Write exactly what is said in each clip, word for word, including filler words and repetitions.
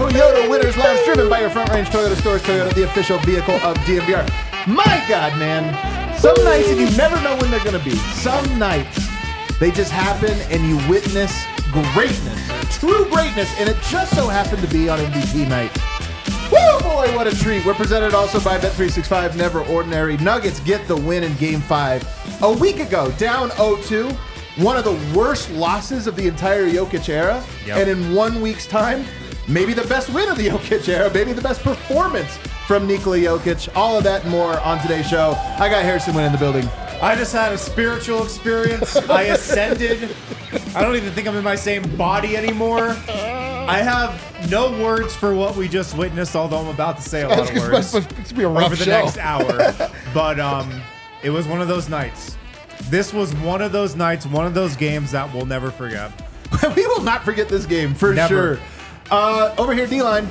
Toyota Winners Lounge, driven by your Front Range Toyota stores. Toyota, the official vehicle of D M V R. My God, man. Some nights, and you never know when they're going to be. Some nights, they just happen, and you witness greatness, true greatness, and it just so happened to be on M V P night. Woo, boy, what a treat. We're presented also by Bet three sixty-five, Never Ordinary. Nuggets get the win in Game five. A week ago, down oh two, one of the worst losses of the entire Jokic era. Yep. And in one week's time, maybe the best win of the Jokic era, maybe the best performance from Nikola Jokic. All of that and more on today's show. I got Harrison Wind in the building. I just had a spiritual experience. I ascended. I don't even think I'm in my same body anymore. I have no words for what we just witnessed, although I'm about to say a lot of words it's be a rough over the show. next hour. But um, it was one of those nights. This was one of those nights, one of those games that we'll never forget. We will not forget this game, for Never. sure. Uh, over here, D-Line.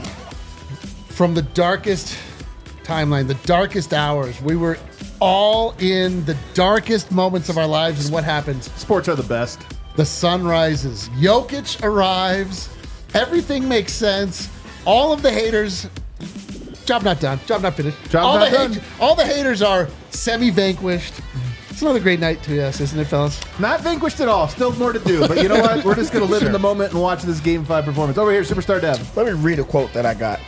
From the darkest timeline, the darkest hours, we were all in the darkest moments of our lives, and what happens? Sports are the best. The sun rises. Jokic arrives. Everything makes sense. All of the haters, job not done. Job not finished. Job all not the done. hate- all the haters are semi-vanquished. It's another great night to us, isn't it, fellas? Not vanquished at all. Still more to do. But you know what? We're just going to live Sure. in the moment and watch this Game five performance. Over here, Superstar Dev. Let me read a quote that I got.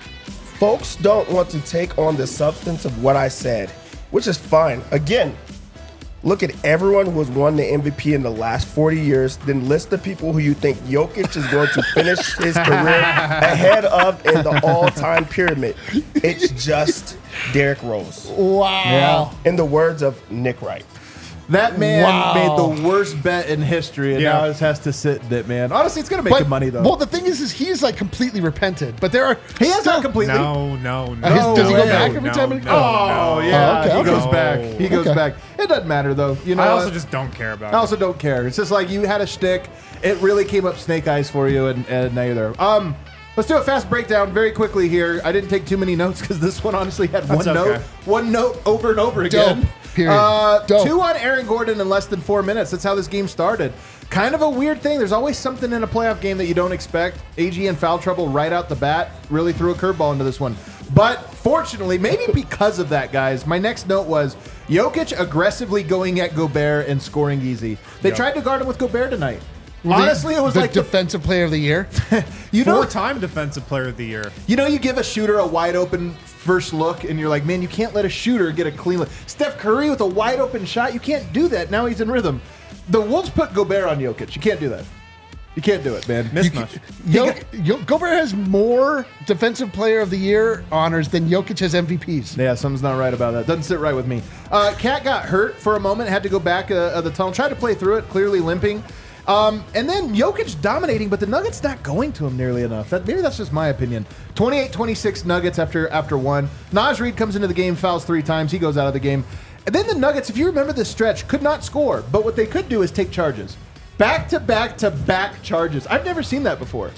Folks don't want to take on the substance of what I said, which is fine. Again, look at everyone who has won the M V P in the last forty years, then list the people who you think Jokic is going to finish his career ahead of in the all-time pyramid. It's just Derrick Rose. Wow. In the words of Nick Wright. That man Wow. made the worst bet in history, and Yeah. now just has to sit in it, man. Honestly, it's going to make him money, though. Well, the thing is, is he's like completely repented, but there are he has still, not completely. No, no, no. Uh, his- does he go no, back every no, time? No, he- no, Oh, no. yeah. Oh, okay, he okay. goes back. He goes Okay. back. It doesn't matter, though. You know, I also what? just don't care about I it. also don't care. It's just like you had a shtick. It really came up snake eyes for you, and, and now you're there. Um, let's do a fast breakdown very quickly here. I didn't take too many notes because this one honestly had That's one okay. note, one note over and over again. Dope. Period. Uh, Dope. Two on Aaron Gordon in less than four minutes. That's how this game started. Kind of a weird thing. There's always something in a playoff game that you don't expect. A G in foul trouble right out the bat. Really threw a curveball into this one. But fortunately, maybe because of that, guys, my next note was Jokic aggressively going at Gobert and scoring easy. They Yep. tried to guard him with Gobert tonight. Well, the- Honestly, it was the like the- defensive player of the year. you know, Four-time Defensive Player of the Year. you know, you give a shooter a wide open first look, and you're like, man, you can't let a shooter get a clean look. Steph Curry with a wide open shot, you can't do that. Now he's in rhythm. The Wolves put Gobert on Jokic. You can't do that. You can't do it, man. Mismatch. Yo, Yo, Gobert has more defensive player of the year honors than Jokic has M V Ps. Yeah, something's not right about that. Doesn't sit right with me. Uh, Cat got hurt for a moment, had to go back uh, of the tunnel, tried to play through it, clearly limping. Um, and then Jokic dominating, but the Nuggets not going to him nearly enough. That, maybe that's just my opinion. twenty-eight twenty-six Nuggets after after one. Naj Reid comes into the game, fouls three times. He goes out of the game. And then the Nuggets, if you remember this stretch, could not score. But what they could do is take charges. Back to back to back charges. I've never seen that before.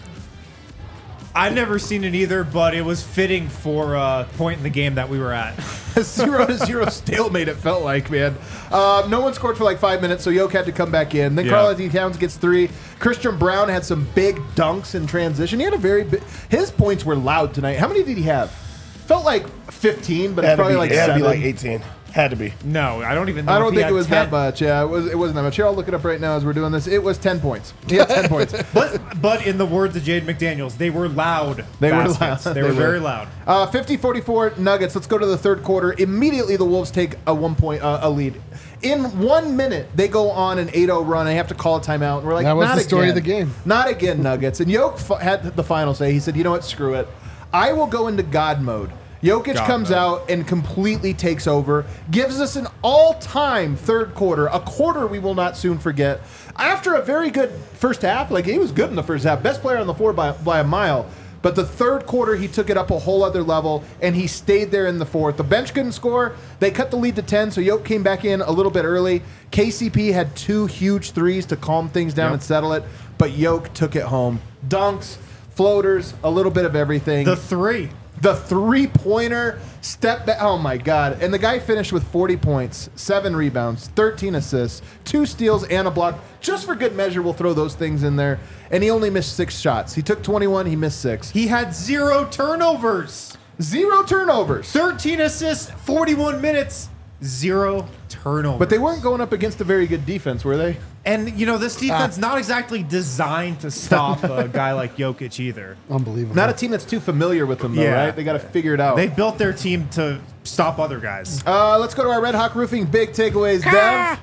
I've never seen it either, but it was fitting for a point in the game that we were at. zero to zero stalemate, it felt like, man. Uh, no one scored for like five minutes, so Yoke had to come back in. Then Yeah. Karl-Anthony Towns gets three. Christian Brown had some big dunks in transition. He had a very big... His points were loud tonight. How many did he have? Felt like fifteen, but It it's had to probably be, like it had to seven. be like eighteen. Had to be. No, I don't even know I if don't he think had it was ten. that much. Yeah, it, was, it wasn't that much. Here, I'll look it up right now as we're doing this. It was ten points. He had ten points. But, but in the words of Jade McDaniels, they were loud. They were baskets. loud. They, They were were. very loud. Uh, fifty forty-four Nuggets. Let's go to the third quarter. Immediately, the Wolves take a one point uh, a lead. In one minute, they go on an eight oh run. They have to call a timeout. And we're like, That was not the story again. of the game. Not again, Nuggets. And Yoke f- had the final say. He said, you know what? Screw it. I will go into God mode. Jokic God comes mode. out and completely takes over, gives us an all-time third quarter, a quarter we will not soon forget. After a very good first half, like he was good in the first half, best player on the floor by, by a mile. But the third quarter, he took it up a whole other level, and he stayed there in the fourth. The bench couldn't score. They cut the lead to ten, so Yoke came back in a little bit early. K C P had two huge threes to calm things down Yep. and settle it, but Yoke took it home. Dunks, floaters, a little bit of everything. The three. The three-pointer step back. Oh, my God. And the guy finished with forty points, seven rebounds, thirteen assists, two steals, and a block. Just for good measure, we'll throw those things in there. And he only missed six shots. He took twenty-one. He missed six. He had zero turnovers. Zero turnovers. thirteen assists, forty-one minutes, zero turnovers. But they weren't going up against a very good defense, were they? And, you know, this defense not exactly designed to stop a guy like Jokic either. Unbelievable. Not a team that's too familiar with them, though, Yeah. right? They got to figure it out. They've built their team to stop other guys. Uh, let's go to our Red Hawk Roofing big takeaways. Dev,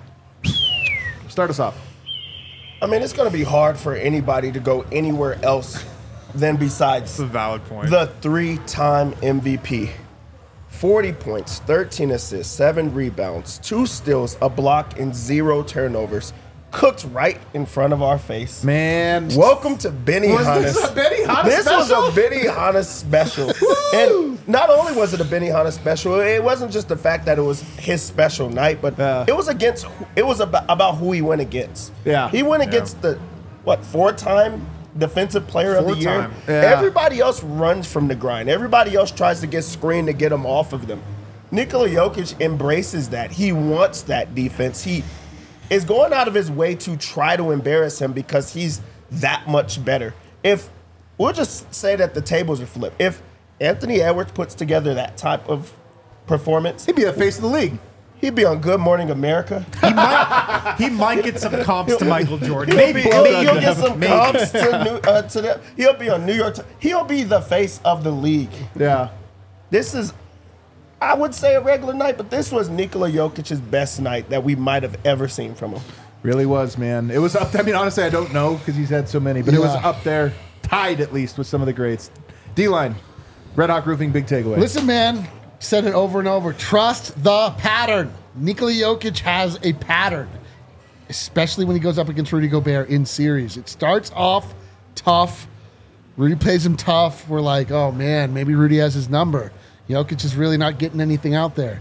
start us off. I mean, it's going to be hard for anybody to go anywhere else than besides That's a valid point. the three-time M V P. forty points, thirteen assists, seven rebounds, two steals, a block, and zero turnovers. Cooked right in front of our face. Man. Welcome to Benny Was Hannes. this a Benny Hannes This special? was a Benny Hannes special. And not only was it a Benny Hannes special, it wasn't just the fact that it was his special night, but Yeah. it was against. It was about, about who he went against. Yeah. he went against the what four-time defensive player of the year. Four-time. Yeah. Everybody else runs from the grind. Everybody else tries to get screened to get him off of them. Nikola Jokic embraces that. He wants that defense. He is going out of his way to try to embarrass him because he's that much better. If we'll just say that the tables are flipped. If Anthony Edwards puts together that type of performance, He'd be the face of the league. he'd be on Good Morning America. he, might, he might get some comps to Michael Jordan. He'll, Maybe. be, he'll, maybe. he'll get some Maybe. comps to, new, uh, to the, he'll be on New York. Ti- He'll be the face of the league. Yeah. This is, I would say, a regular night, but this was Nikola Jokic's best night that we might have ever seen from him. Really was, man. It was up. I mean, honestly, I don't know because he's had so many, but it was Yeah. up there, tied at least with some of the greats. D-line, Red Hawk Roofing, big takeaway. Listen, man, said it over and over. Trust the pattern. Nikola Jokic has a pattern, especially when he goes up against Rudy Gobert in series. It starts off tough. Rudy plays him tough. We're like, oh, man, maybe Rudy has his number. Jokic is really not getting anything out there.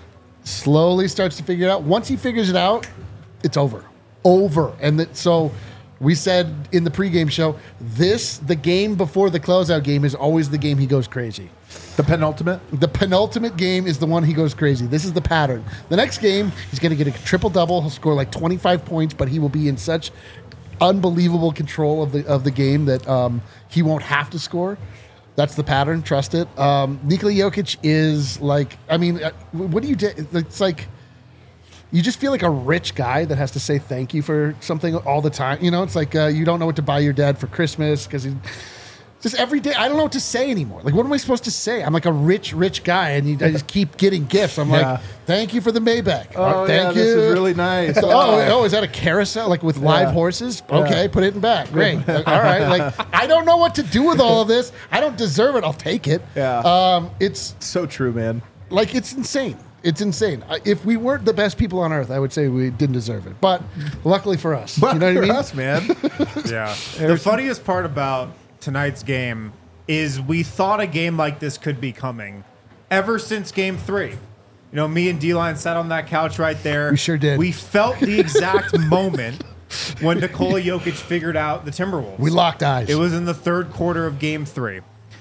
Slowly starts to figure it out. Once he figures it out, it's over. Over. And that, so we said in the pregame show, this, the game before the closeout game, is always the game he goes crazy. The penultimate. The penultimate game is the one he goes crazy. This is the pattern. The next game, he's going to get a triple double. He'll score like twenty-five points, but he will be in such unbelievable control of the of the game that um, he won't have to score. That's the pattern. Trust it. Um, Nikola Jokic is like, I mean, uh, what do you do? It's like you just feel like a rich guy that has to say thank you for something all the time. You know, it's like uh, you don't know what to buy your dad for Christmas because he. Just every day, I don't know what to say anymore. Like, what am I supposed to say? I'm like a rich, rich guy, and you, I just keep getting gifts. I'm Yeah. like, thank you for the Maybach. Oh, thank yeah, you. this is really nice. oh, oh, is that a carousel, like with live horses? Okay, put it in back. Great. Like, all right. Like, I don't know what to do with all of this. I don't deserve it. I'll take it. Yeah. Um, it's So true, man. like it's insane. It's insane. I- If we weren't the best people on earth, I would say we didn't deserve it. But luckily for us, But you know what I for mean? us, man. Yeah. The funniest part about tonight's game is we thought a game like this could be coming ever since game three. You know, me and D-Line sat on that couch right there. We sure did. We felt the exact moment when Nikola Jokic figured out the Timberwolves. We locked eyes. It was in the third quarter of game three.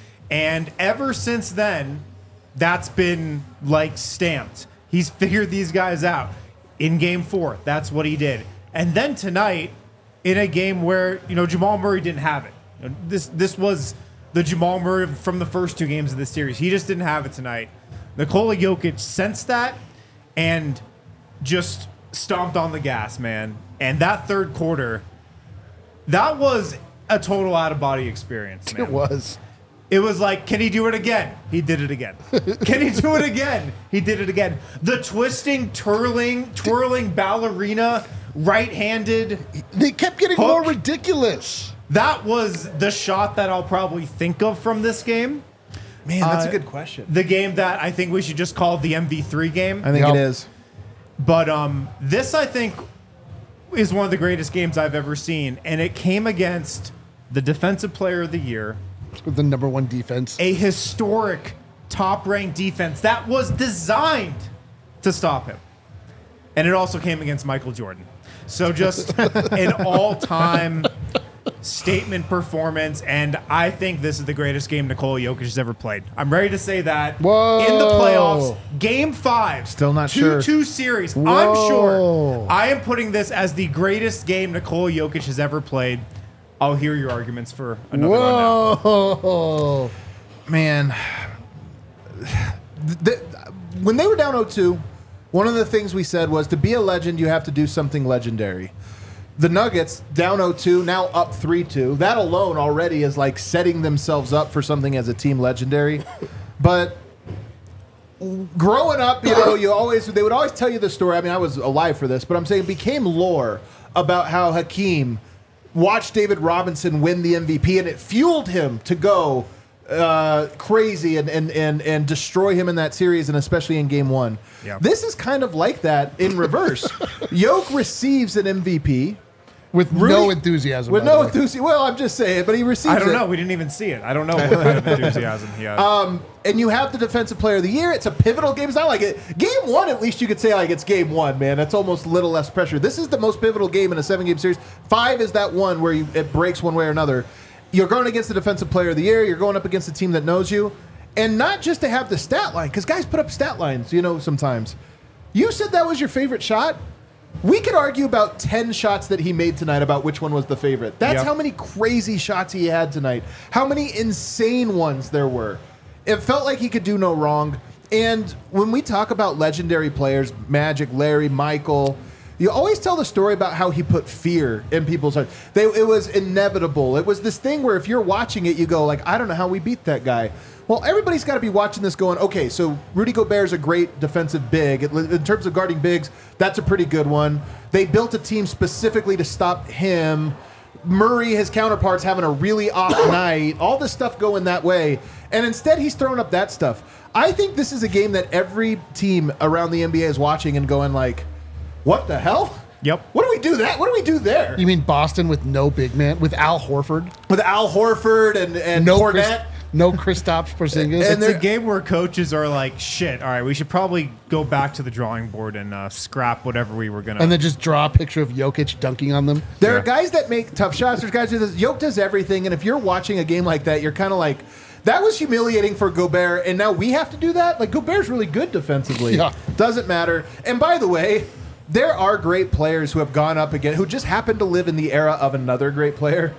And ever since then, that's been like stamped. He's figured these guys out. In game four, that's what he did. And then tonight, in a game where, you know, Jamal Murray didn't have it. You know, This this was the Jamal Murray from the first two games of the series. He just didn't have it tonight. Nikola Jokic sensed that and just stomped on the gas, man. And that third quarter, that was a total out-of-body experience, man. It was. It was like, can he do it again? He did it again. Can he do it again? He did it again. The twisting, twirling, twirling ballerina, right-handed. They kept getting Hook. more ridiculous. That was the shot that I'll probably think of from this game. Man, that's Uh, a good question. The game that I think we should just call the M V three game. I think Yep. it is. But um, this, I think, is one of the greatest games I've ever seen. And it came against the Defensive Player of the Year, With the number one defense. a historic top-ranked defense that was designed to stop him. And it also came against Michael Jordan. So just an all-time statement performance, and I think this is the greatest game Nikola Jokic has ever played. I'm ready to say that. Whoa. In the playoffs, game five. Still not two, sure. two series. Whoa. I'm sure. I am putting this as the greatest game Nikola Jokic has ever played. I'll hear your arguments for another one now. Whoa. Man, the, when they were down oh two, one of the things we said was to be a legend, you have to do something legendary. The Nuggets, down oh two, now up three two. That alone already is like setting themselves up for something as a team legendary. But growing up, you know, you always they would always tell you the story. I mean, I was alive for this, but I'm saying it became lore about how Hakeem watched David Robinson win the M V P, and it fueled him to go uh, crazy and, and and and destroy him in that series, and especially in game one. Yeah. This is kind of like that in reverse. Yoke receives an M V P With Rudy- no enthusiasm. with by the no way. enthusiasm. Well, I'm just saying, but he receives I don't it. know. We didn't even see it. I don't know what kind of enthusiasm he has. Um, and you have the defensive player of the year. It's a pivotal game. It's not like it. Game one, at least you could say like it's game one, man. That's almost a little less pressure. This is the most pivotal game in a seven-game series. Five is that one where you, it breaks one way or another. You're going against the defensive player of the year. You're going up against a team that knows you. And not just to have the stat line, because guys put up stat lines, you know, sometimes. You said that was your favorite shot. We could argue about ten shots that he made tonight about which one was the favorite. That's Yep. how many crazy shots he had tonight. How many insane ones there were. It felt like he could do no wrong. And when we talk about legendary players, Magic, Larry, Michael, you always tell the story about how he put fear in people's hearts. They, it was inevitable. It was this thing where if you're watching it, you go like, I don't know how we beat that guy. Well, everybody's got to be watching this going, okay, so Rudy Gobert's a great defensive big. In terms of guarding bigs, that's a pretty good one. They built a team specifically to stop him. Murray, his counterparts, having a really off night. All this stuff going that way. And instead, he's throwing up that stuff. I think this is a game that every team around the N B A is watching and going like, what the hell? Yep. What do we do that? What do we do there? You mean Boston with no big man, with Al Horford, With Al Horford and, and no Chris, Fournette? no Kristaps Porzingis. And It's they're- a game where coaches are like, shit, all right, we should probably go back to the drawing board and uh, scrap whatever we were going to. and then just draw a picture of Jokic dunking on them. There Yeah. are guys that make tough shots. There's guys who does. Yoke does everything, and if you're watching a game like that, you're kind of like, that was humiliating for Gobert, and now we have to do that? Like, Gobert's really good defensively. Yeah. Doesn't matter. And by the way, there are great players who have gone up again, who just happen to live in the era of another great player.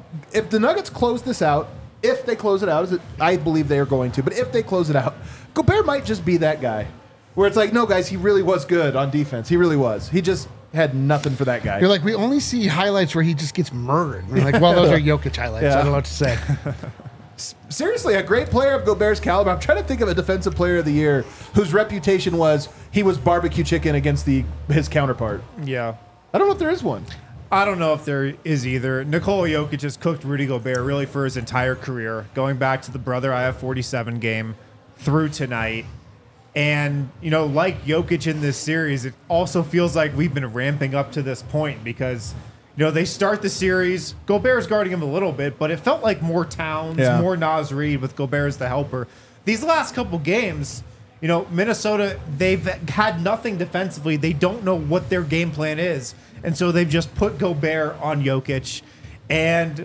If the Nuggets close this out, if they close it out, as it, I believe they are going to, but if they close it out, Gobert might just be that guy. Where it's like, no, guys, he really was good on defense. He really was. He just had nothing for that guy. You're like, we only see highlights where he just gets murdered. We're like, well, those are Jokic highlights. Yeah. I don't know what to say. Seriously, a great player of Gobert's caliber. I'm trying to think of a defensive player of the year whose reputation was he was barbecue chicken against the his counterpart. yeah. I don't know if there is one. I don't know if there is either. Nikola Jokic has cooked Rudy Gobert really for his entire career, going back to the brother I have forty-seven game through tonight. And, you know, like Jokic in this series, it also feels like we've been ramping up to this point because, you know, they start the series. Gobert's guarding him a little bit, but it felt like more Towns, Yeah. more Naz Reid with Gobert as the helper. These last couple games, you know, Minnesota, they've had nothing defensively. They don't know what their game plan is. And so they've just put Gobert on Jokic. And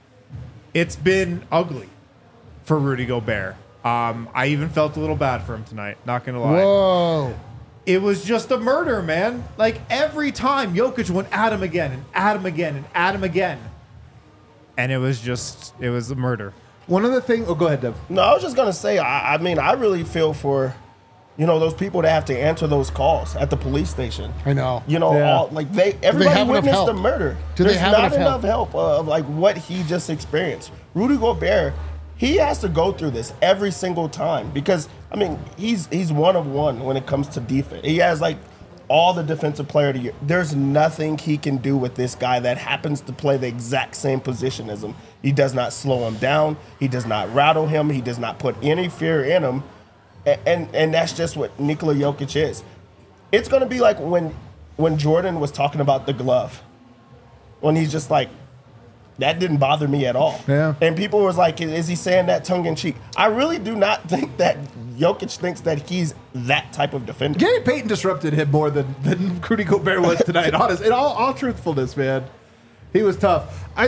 it's been ugly for Rudy Gobert. Um, I even felt a little bad for him tonight, not going to lie. Whoa. It was just a murder, man. Like every time Jokic went at him again and at him again and at him again. And it was just, it was a murder. One of the things. Oh, go ahead, Dev. No, I was just gonna say. I, I mean, I really feel for, you know, those people that have to answer those calls at the police station. I know. You know, Yeah. all, like they everybody have enough witnessed the help? murder. Do they There's have not enough enough help? help, uh, of like what he just experienced. Rudy Gobert, he has to go through this every single time because I mean he's he's one of one when it comes to defense. He has like all the defensive player of the year. There's nothing he can do with this guy that happens to play the exact same position as him. He does not slow him down. He does not rattle him. He does not put any fear in him. And and, and that's just what Nikola Jokic is. It's gonna be like when when Jordan was talking about the glove. When he's just like, that didn't bother me at all. Yeah. And people was like, is he saying that tongue in cheek? I really do not think that Jokic thinks that he's that type of defender. Gary Payton disrupted him more than, than Rudy Gobert was tonight. Honest, in all, all truthfulness, man, he was tough. I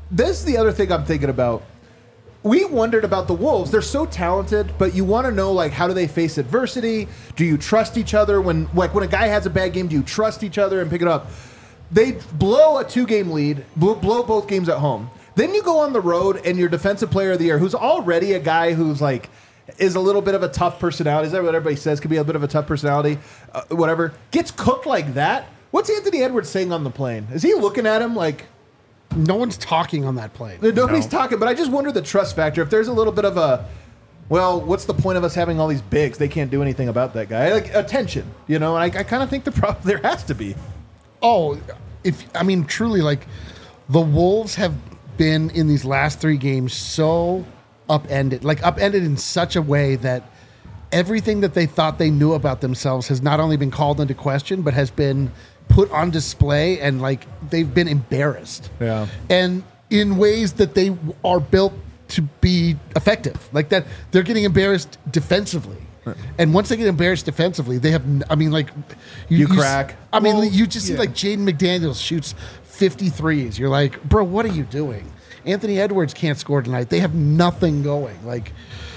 this is the other thing I'm thinking about. We wondered about the Wolves. They're so talented, but you want to know, like, how do they face adversity? Do you trust each other? When, like, when a guy has a bad game, do you trust each other and pick it up? They blow a two-game lead, blow, blow both games at home. Then you go on the road, and your defensive player of the year, who's already a guy who's, like, is a little bit of a tough personality. Is that what everybody says? Could be a bit of a tough personality, uh, whatever. Gets cooked like that. What's Anthony Edwards saying on the plane? Is he looking at him like... No one's talking on that plane. Nobody's No. talking, but I just wonder the trust factor. If there's a little bit of a, well, what's the point of us having all these bigs? They can't do anything about that guy. Like, attention, you know? And I, I kind of think the problem there has to be. Oh, if I mean, truly, like, the Wolves have been in these last three games so upended, like upended in such a way that everything that they thought they knew about themselves has not only been called into question, but has been put on display, and like they've been embarrassed. Yeah. And in ways that they are built to be effective. Like that they're getting embarrassed defensively. And once they get embarrassed defensively, they have n- I mean like You s- crack. I mean Well, you just yeah. see like Jaden McDaniels shoots fifty threes. You're like, "Bro, what are you doing?" Anthony Edwards can't score tonight. They have nothing going. Like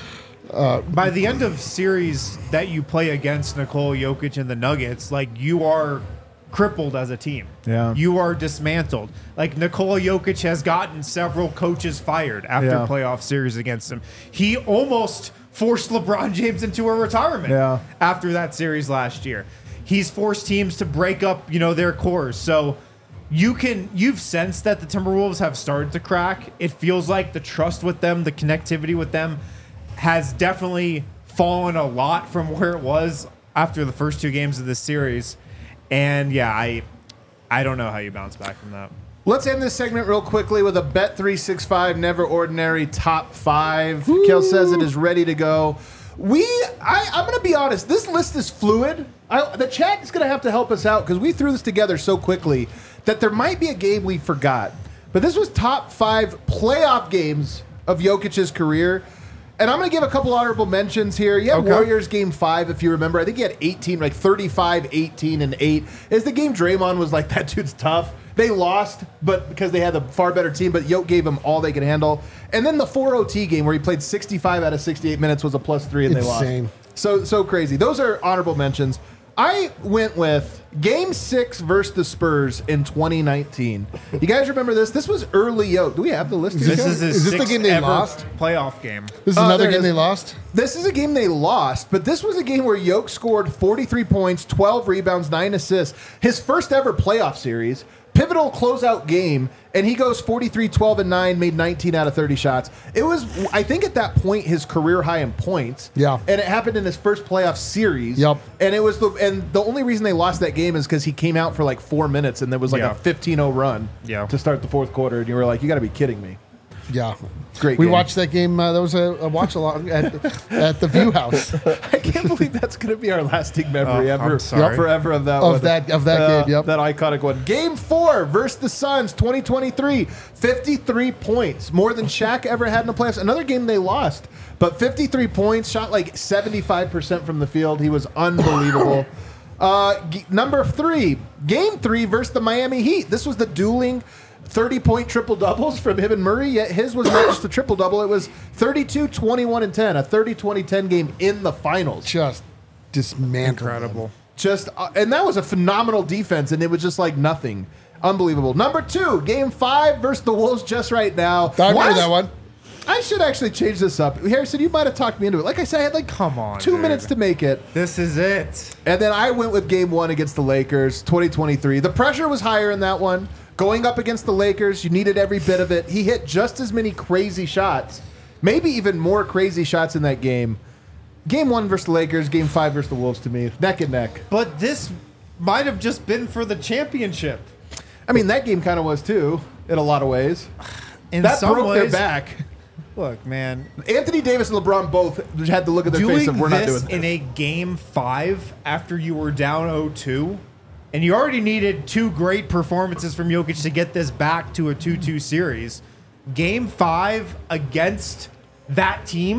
By the end of series that you play against Nikola Jokic and the Nuggets, like you are crippled as a team. Yeah. You are dismantled. Like Nikola Jokic has gotten several coaches fired after Yeah. playoff series against him. He almost forced LeBron James into a retirement Yeah. after that series last year. He's forced teams to break up, you know, their cores. So you can you've sensed that the Timberwolves have started to crack. It feels like the trust with them, the connectivity with them has definitely fallen a lot from where it was after the first two games of this series. And yeah, I I don't know how you bounce back from that. Let's end this segment real quickly with a Bet three sixty-five Never Ordinary Top five. Kel says it is ready to go. We, I, I'm going to be honest, this list is fluid. I, the chat is going to have to help us out because we threw this together so quickly that there might be a game we forgot. But this was top five playoff games of Jokic's career. And I'm going to give a couple honorable mentions here. You have Okay. Warriors game five, if you remember. I think he had eighteen, like thirty-five, eighteen, and eight. Is the game Draymond was like, that dude's tough. They lost, but because they had a far better team, but Yoke gave them all they could handle. And then the four O T game where he played sixty-five out of sixty-eight minutes was a plus three and Insane. they lost. So, so crazy. Those are honorable mentions. I went with game six versus the Spurs in twenty nineteen. You guys remember this? This was early Yoke. Do we have the list? Is here? This Okay. is his Is this the sixth game they ever lost? playoff game. this is Uh, another there it game is. they lost. This is a game they lost, but this was a game where Yoke scored forty-three points, twelve rebounds, nine assists. His first ever playoff series, pivotal closeout game, and he goes forty-three, twelve, and nine, made nineteen out of thirty shots. It was, I think at that point, his career high in points. Yeah. And it happened in his first playoff series. Yep. And it was the and the only reason they lost that game is because he came out for like four minutes and there was like Yeah. a fifteen oh run Yeah. to start the fourth quarter, and you were like, you got to be kidding me. Yeah. Great We game. watched that game. Uh, that was a, a watch along at, at the View House. I can't believe that's going to be our lasting memory Oh, ever, I'm sorry. forever of that Of one. that- of that Uh, game, yep. that iconic one. Game four versus the Suns, twenty twenty-three, fifty-three points, more than Shaq ever had in the playoffs. Another game they lost, but fifty-three points, shot like seventy-five percent from the field. He was unbelievable. uh, g- number three, game three versus the Miami Heat. This was the dueling thirty-point triple-doubles from him and Murray, yet his was not just a triple-double. It was thirty-two, twenty-one, and ten, a thirty twenty ten game in the finals. Just dismantled. Incredible. Just uh, and that was a phenomenal defense, and it was just like nothing. Unbelievable. Number two, game five versus the Wolves just right now. I remember What? that one. I should actually change this up. Harrison, you might have talked me into it. Like I said, I had like Come on, two dude. minutes to make it. This is it. And then I went with game one against the Lakers, twenty twenty-three. The pressure was higher in that one. Going up against the Lakers, you needed every bit of it. He hit just as many crazy shots, maybe even more crazy shots in that game. Game one versus the Lakers, game five versus the Wolves to me, neck and neck. But this might have just been for the championship. I mean, that game kind of was too, in a lot of ways. In That some broke ways, their back. Look, man, Anthony Davis and LeBron both had to look at their doing face of we're not this doing in this. a game five after you were down oh two, and you already needed two great performances from Jokic to get this back to a two two series. Game five against that team.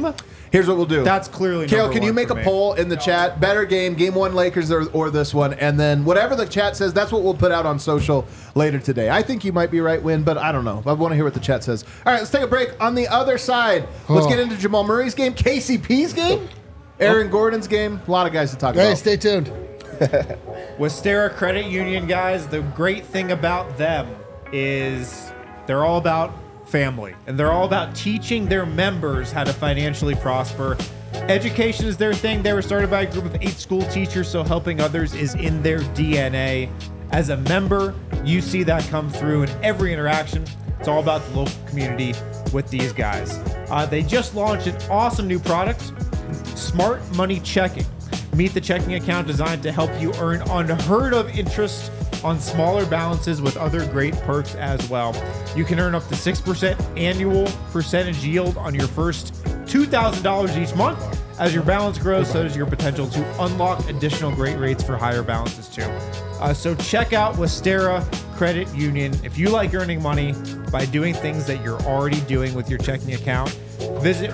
Here's what we'll do. That's clearly Carol, number can you one make for a me. poll in the chat? Better game, game one Lakers or, or this one? And then whatever the chat says, that's what we'll put out on social later today. I think you might be right, Win, but I don't know. I want to hear what the chat says. All right, let's take a break. On the other side, let's Oh. get into Jamal Murray's game, K C P's game, Aaron Gordon's game. A lot of guys to talk Hey, about. stay tuned. Westera Credit Union, guys, the great thing about them is they're all about family, and they're all about teaching their members how to financially prosper. Education is their thing. They were started by a group of eight school teachers, so helping others is in their D N A. As a member, you see that come through in every interaction. It's all about the local community with these guys. Uh, they just launched an awesome new product, Smart Money Checking. Meet the checking account designed to help you earn unheard of interest on smaller balances with other great perks as well. You can earn up to six percent annual percentage yield on your first two thousand dollars each month. As your balance grows, so does your potential to unlock additional great rates for higher balances too. Uh, so check out Westera Credit Union. If you like earning money by doing things that you're already doing with your checking account, visit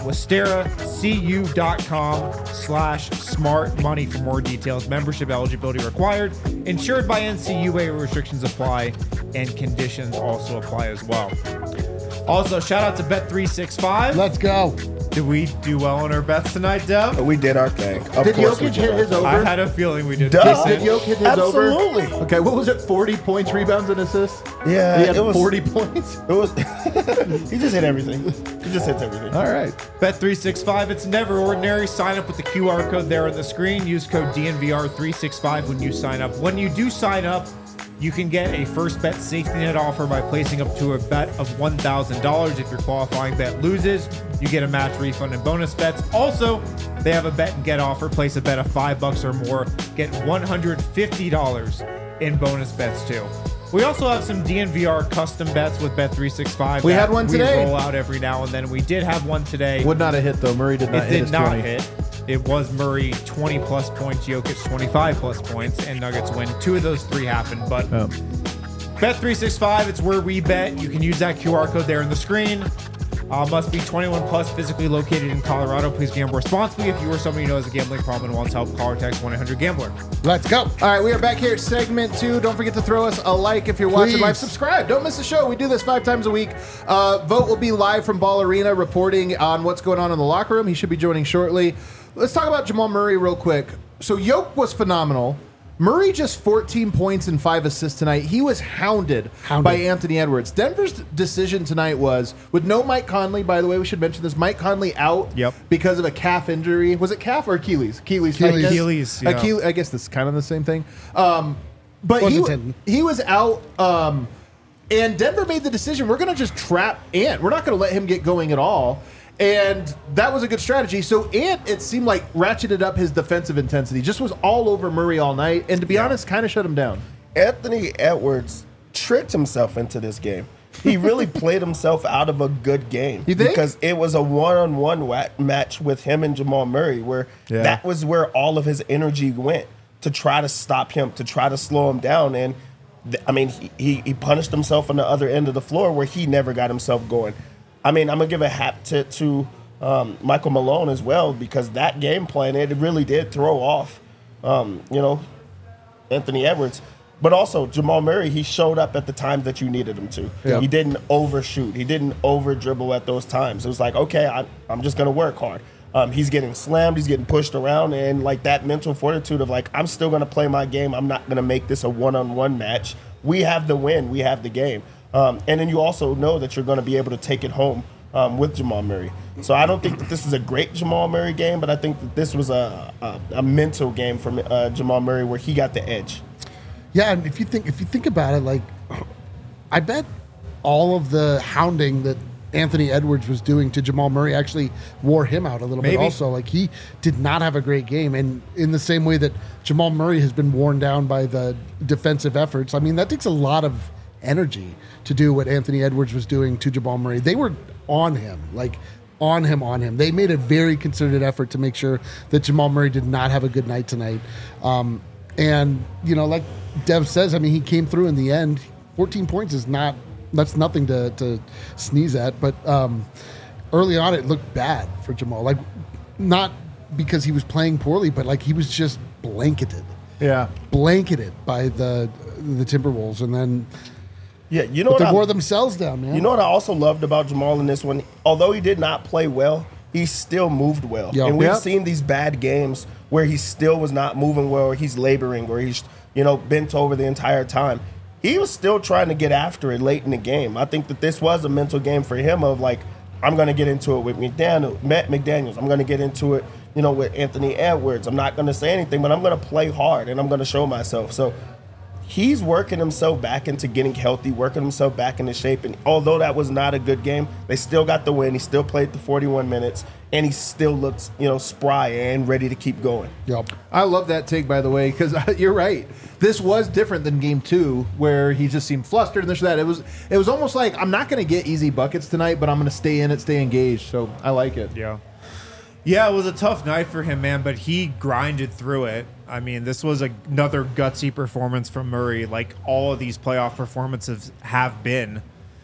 westeracu.com slash smart money for more details. Membership eligibility required. Insured by N C U A. Restrictions apply and conditions also apply as well. Also, shout out to Bet three sixty-five. Let's go. Did we do well on our bets tonight, Dev? We did our thing. Of Did course we Jokic did hit our his thing. over? I had a feeling we did. Duh. Did Jokic hit his Absolutely. over? Okay, what was it? forty points, rebounds, and assists? Yeah, He had it was- forty points? It was. He just hit everything. He just hits everything. All right. Bet three sixty-five, it's never ordinary. Sign up with the Q R code there on the screen. Use code D N V R three sixty-five when you sign up. When you do sign up, you can get a first bet safety net offer by placing up to a bet of one thousand dollars. If your qualifying bet loses, you get a match refund and bonus bets. Also, they have a bet and get offer. Place a bet of five bucks or more, get one hundred fifty dollars in bonus bets too. We also have some D N V R custom bets with Bet three sixty-five. We that had one today. We roll out every now and then. We did have one today. Would not have hit, though. Murray did not It hit did his not twenty. hit. It was Murray twenty plus points, Jokic twenty-five plus points, and Nuggets win. Two of those three happened, but Oh. Bet three sixty-five, it's where we bet. You can use that Q R code there on the screen. Uh, must be twenty-one plus, physically located in Colorado. Please gamble responsibly. If you or somebody who knows a gambling problem and wants help, call or text one eight hundred gambler. Let's go. All right, we are back here at segment two. Don't forget to throw us a like if you're watching Please. live. Subscribe. Don't miss the show. We do this five times a week. Uh, Vote will be live from Ball Arena reporting on what's going on in the locker room. He should be joining shortly. Let's talk about Jamal Murray real quick. So Yoke was phenomenal. Murray just fourteen points and five assists tonight. He was hounded, Hounded. by Anthony Edwards. Denver's decision tonight was, with no Mike Conley, by the way, we should mention this, Mike Conley out Yep. because of a calf injury. Was it calf or Achilles? Achilles. Achilles. tightness? Achilles, yeah. Achilles. I guess that's kind of the same thing. Um, but Was he, a wa- tendon. he was out, um, and Denver made the decision, we're going to just trap Ant. We're not going to let him get going at all. And that was a good strategy. So Ant, it seemed like, ratcheted up his defensive intensity, just was all over Murray all night, and to be honest, kind of shut him down. Anthony Edwards tricked himself into this game. He really played himself out of a good game. You think? Because it was a one-on-one wa- match with him and Jamal Murray where Yeah. that was where all of his energy went to try to stop him, to try to slow him down. And, th- I mean, he, he, he punished himself on the other end of the floor where he never got himself going. I mean, I'm going to give a hat tip to um, Michael Malone as well because that game plan, it really did throw off, um, you know, Anthony Edwards. But also, Jamal Murray, he showed up at the time that you needed him to. Yeah. He didn't overshoot. He didn't over-dribble at those times. It was like, okay, I, I'm just going to work hard. Um, he's getting slammed. He's getting pushed around. And, like, that mental fortitude of, like, I'm still going to play my game. I'm not going to make this a one-on-one match. We have the win. We have the game. Um, and then you also know that you're going to be able to take it home um, with Jamal Murray. So I don't think that this is a great Jamal Murray game, but I think that this was a, a, a mental game from uh, Jamal Murray where he got the edge. Yeah, and if you think if you think about it, like, I bet all of the hounding that Anthony Edwards was doing to Jamal Murray actually wore him out a little Maybe. bit. Also, like he did not have a great game, and in the same way that Jamal Murray has been worn down by the defensive efforts, I mean that takes a lot of energy to do what Anthony Edwards was doing to Jamal Murray. They were on him, like on him, on him. They made a very concerted effort to make sure that Jamal Murray did not have a good night tonight. Um, and, you know, like Dev says, I mean, he came through in the end. fourteen points is not, that's nothing to, to sneeze at. But um, early on, it looked bad for Jamal. Like, not because he was playing poorly, but like he was just blanketed, Yeah. blanketed by the the Timberwolves, and then Yeah, you know but what they I, wore themselves down, man. you know what I also loved about Jamal in this one? Although he did not play well, he still moved well. Yeah. And we've Yep. seen these bad games where he still was not moving well, or he's laboring, or he's, you know, bent over the entire time. He was still trying to get after it late in the game. I think that this was a mental game for him of like, I'm going to get into it with McDaniel, Matt McDaniels. I'm going to get into it, you know, with Anthony Edwards. I'm not going to say anything, but I'm going to play hard and I'm going to show myself. So he's working himself back into getting healthy, working himself back into shape. And although that was not a good game, they still got the win. He still played the forty-one minutes, and he still looks, you know, spry and ready to keep going. Yep. I love that take, by the way, because you're right. This was different than game two, where he just seemed flustered and this or that. It was, it was almost like, I'm not going to get easy buckets tonight, but I'm going to stay in it, stay engaged. So I like it. Yeah. Yeah, it was a tough night for him, man, but he grinded through it. I mean, this was a, another gutsy performance from Murray, like all of these playoff performances have been.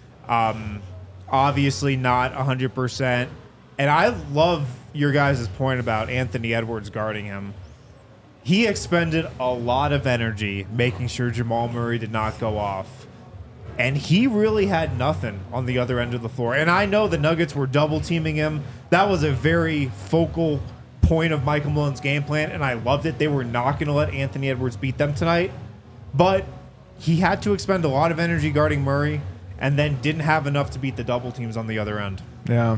Um, obviously not one hundred percent. And I love your guys' point about Anthony Edwards guarding him. He expended a lot of energy making sure Jamal Murray did not go off. And he really had nothing on the other end of the floor. And I know the Nuggets were double teaming him. That was a very focal point of Michael Malone's game plan, and I loved it. They were not going to let Anthony Edwards beat them tonight. But he had to expend a lot of energy guarding Murray and then didn't have enough to beat the double teams on the other end. Yeah.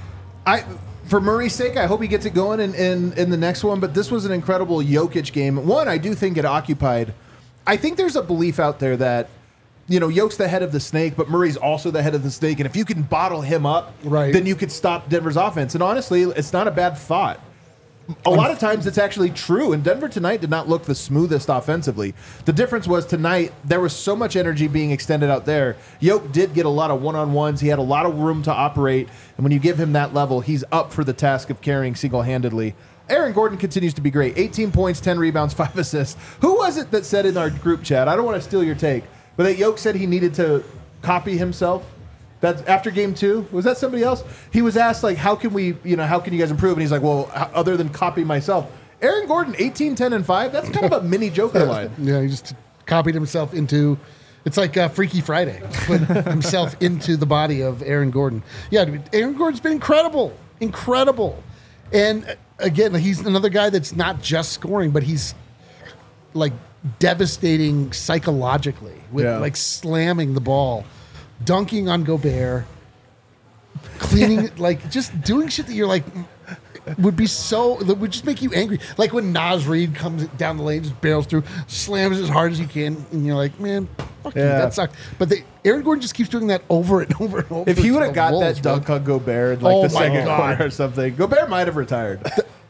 I for Murray's sake, I hope he gets it going in, in, in the next one, but this was an incredible Jokic game. One, I do think it occupied. I think there's a belief out there that, you know, Jokic's the head of the snake, but Murray's also the head of the snake, and if you can bottle him up, Right. then you could stop Denver's offense. And honestly, it's not a bad thought. A lot of times it's actually true, and Denver tonight did not look the smoothest offensively. The difference was tonight there was so much energy being extended out there. Jokic did get a lot of one-on-ones. He had a lot of room to operate, and when you give him that level, he's up for the task of carrying single-handedly. Aaron Gordon continues to be great. eighteen points, ten rebounds, five assists. Who was it that said in our group chat, I don't want to steal your take, but that Jokic said he needed to copy himself? That's after game two. Was that somebody else? He was asked, like, how can we, you know, how can you guys improve? And he's like, well, h- other than copy myself. Aaron Gordon, eighteen, ten, and five. That's kind of a mini Joker line. Yeah, he just copied himself into. It's like uh, Freaky Friday. Put himself into the body of Aaron Gordon. Yeah, dude, Aaron Gordon's been incredible, incredible. And uh, again, he's another guy that's not just scoring, but he's like devastating psychologically with Yeah. like slamming the ball, dunking on Gobert, cleaning, like just doing shit that you're like would be so that would just make you angry. Like when Nas Reed comes down the lane, just barrels through, slams as hard as he can, and you're like, man, fuck you, Yeah. that sucked. But they, Aaron Gordon just keeps doing that over and over and over. If he to would the have got Wolves, that bro. dunk on Gobert in like Oh the my second God. quarter or something, Gobert might have retired.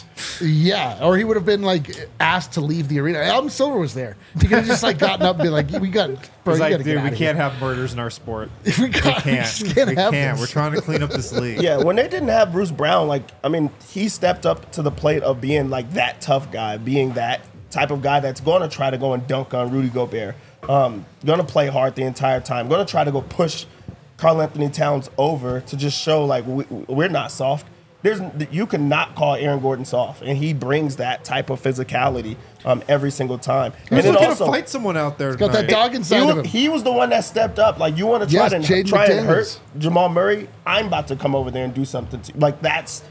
Yeah, or he would have been like asked to leave the arena. Adam Silver was there. He could have just like gotten up and been like, "We got, bro, It's you like, gotta dude, get we out can't have murders in our sport. Here. We, We got, we can't. just can't we have can't. this. We're trying to clean up this league. Yeah, when they didn't have Bruce Brown, like, I mean, he stepped up to the plate of being like that tough guy, being that type of guy that's going to try to go and dunk on Rudy Gobert, um, going to play hard the entire time, going to try to go push Karl Anthony Towns over to just show like we, we're not soft. There's you cannot call Aaron Gordon soft, and he brings that type of physicality um, every single time. He's And then looking also, to fight someone out there. got that tonight. dog he, inside of wa- him. he was the one that stepped up. Like, you want to try Yes, to Jaden try and hurt McDaniels. Jamal Murray? I'm about to come over there and do something. To, like, that's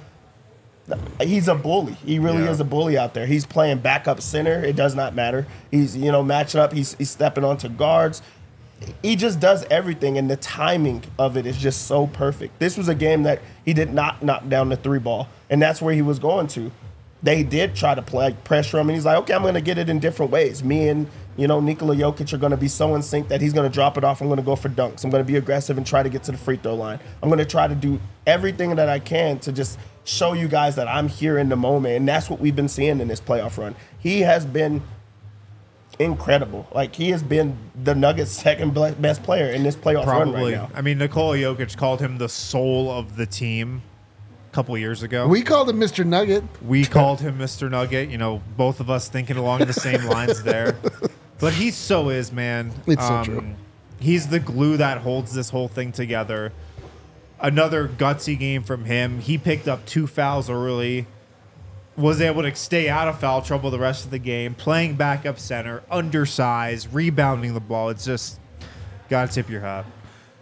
he's a bully. He really Yeah. is a bully out there. He's playing backup center. It does not matter. He's you know matching up. He's he's stepping onto guards. He just does everything, and the timing of it is just so perfect. This was a game that he did not knock down the three ball, and that's where he was going to. They did try to play pressure him, and he's like, okay, I'm going to get it in different ways. Me and, you know, Nikola Jokic are going to be so in sync that he's going to drop it off. I'm going to go for dunks. I'm going to be aggressive and try to get to the free throw line. I'm going to try to do everything that I can to just show you guys that I'm here in the moment, and that's what we've been seeing in this playoff run. He has been incredible. Like, he has been the Nuggets' second ble- best player in this playoff run Probably. right now. I mean, Nikola Jokic called him the soul of the team a couple years ago. We called him Mister Nugget. We called him Mister Nugget. You know, both of us thinking along the same lines there. But he so is, man. It's so true. He's the glue that holds this whole thing together. Another gutsy game from him. He picked up two fouls early. was able to stay out of foul trouble the rest of the game, playing backup center, undersized, rebounding the ball. It's just gotta tip your hat.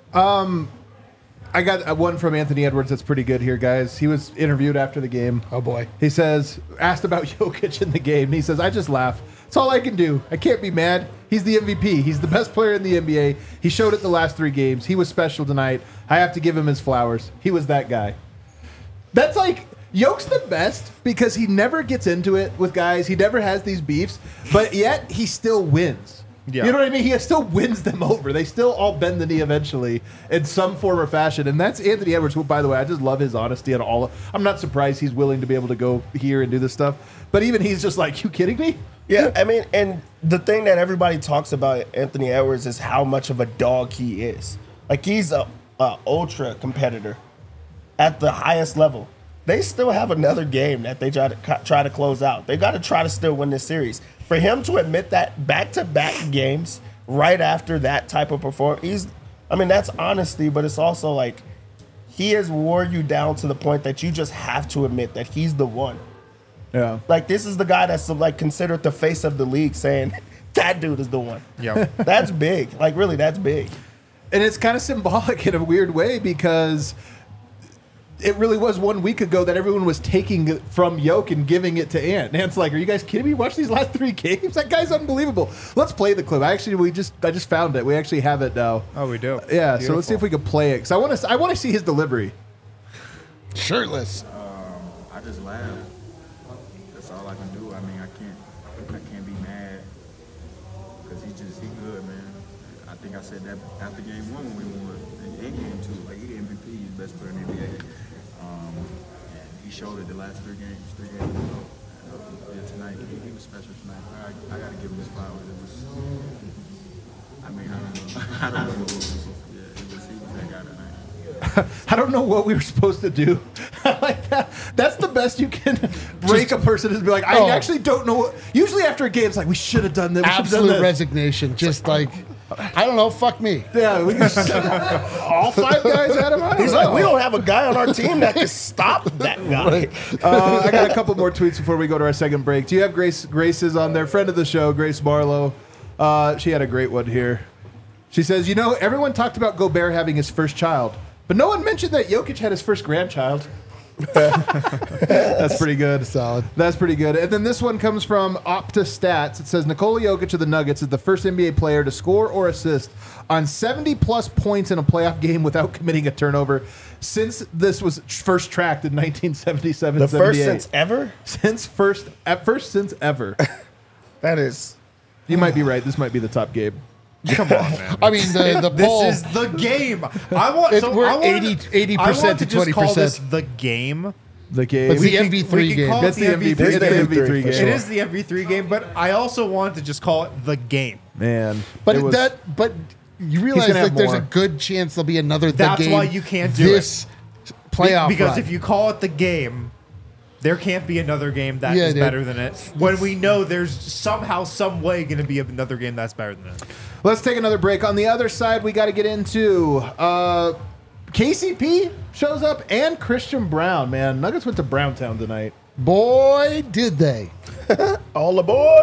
I got uh, one from Anthony Edwards that's pretty good here, guys. He was interviewed after the game. Oh, boy. He says, asked about Jokic in the game. And he says, I just laugh. It's all I can do. I can't be mad. He's the M V P. He's the best player in the N B A. He showed it the last three games. He was special tonight. I have to give him his flowers. He was that guy. That's like, Yoke's the best because he never gets into it with guys. He never has these beefs, but yet he still wins. Yeah. You know what I mean? He still wins them over. They still all bend the knee eventually in some form or fashion. And that's Anthony Edwards, who, by the way, I just love his honesty and all. I'm not surprised he's willing to be able to go here and do this stuff. But even he's just like, you kidding me? Yeah, I mean, and the thing that everybody talks about Anthony Edwards is how much of a dog he is. Like, he's a, a ultra competitor at the highest level. They still have another game that they try to try to close out. They got to try to still win this series. For him to admit that back-to-back games right after that type of performance, he's, I mean, that's honesty, but it's also like he has wore you down to the point that you just have to admit that he's the one. Yeah. Like, this is the guy that's like considered the face of the league, saying that dude is the one. Yeah. That's big. Like, really, that's big. And it's kind of symbolic in a weird way because it really was one week ago that everyone was taking it from Yoke and giving it to Ant. Ant's like, are you guys kidding me? Watch these last three games. That guy's unbelievable. Let's play the clip. Actually, we just I just found it. We actually have it now. Oh, we do. Yeah. Beautiful. So let's see if we can play it. Because I want to I want to see his delivery. Shirtless. Um, I just laugh. That's all I can do. I mean, I can't, I can't be mad because he just he good, man. I think I said that after game one when we won, and in game two, like he the M V P, he's the best player in the N B A. Um, and he showed it the last three games, three games ago. Uh, yeah, tonight he, he was special tonight. I, I got to give him his flowers. It was, I mean, I don't know, I don't know what was, yeah, it was he was that guy tonight. I don't know what we were supposed to do. I like that. That's the best you can break a person is be like, I Oh. actually don't know what. Usually after a game, it's like, we should have done that. We should have done Absolute that. resignation. Just like, I don't know, fuck me. Yeah, we just all five guys at him. I don't He's know. like, we don't have a guy on our team that can stop that guy. Uh, I got a couple more tweets before we go to our second break. Do you have Grace? Grace is on there, friend of the show, Grace Barlow. Uh, she had a great one here. She says, you know, everyone talked about Gobert having his first child, but no one mentioned that Jokic had his first grandchild. That's pretty good. Solid. That's pretty good. And then this one comes from Opta Stats. It says Nikola Jokic of the Nuggets is the first N B A player to score or assist on seventy plus points in a playoff game without committing a turnover since this was first tracked in nineteen seventy-seven. The first seventy-eight. since ever? Since first, at first since ever. That is. You might be right. This might be the top game. Come on, man. I mean, the, the This poll. is the game. I want. It- so we're I want eighty eighty I want percent to just call this twenty percent. the game. The game. It's We the can- M V we three can game. call it That's the the M V three. M V three That's the game. M V three for game. sure. It is the M V three game, but I also want to just call it the game. Man. But it was- that, but you realize gonna like have there's more. a good chance there'll be another. The That's game why you can't do this playoff because run. if you call it the game, there can't be another game that is Yeah, dude. better than it. When we know there's somehow, some way going to be another game that's better than it. Let's take another break. On the other side, we got to get into uh, K C P shows up and Christian Brown. Man, Nuggets went to Browntown tonight. boy, did they! All aboard.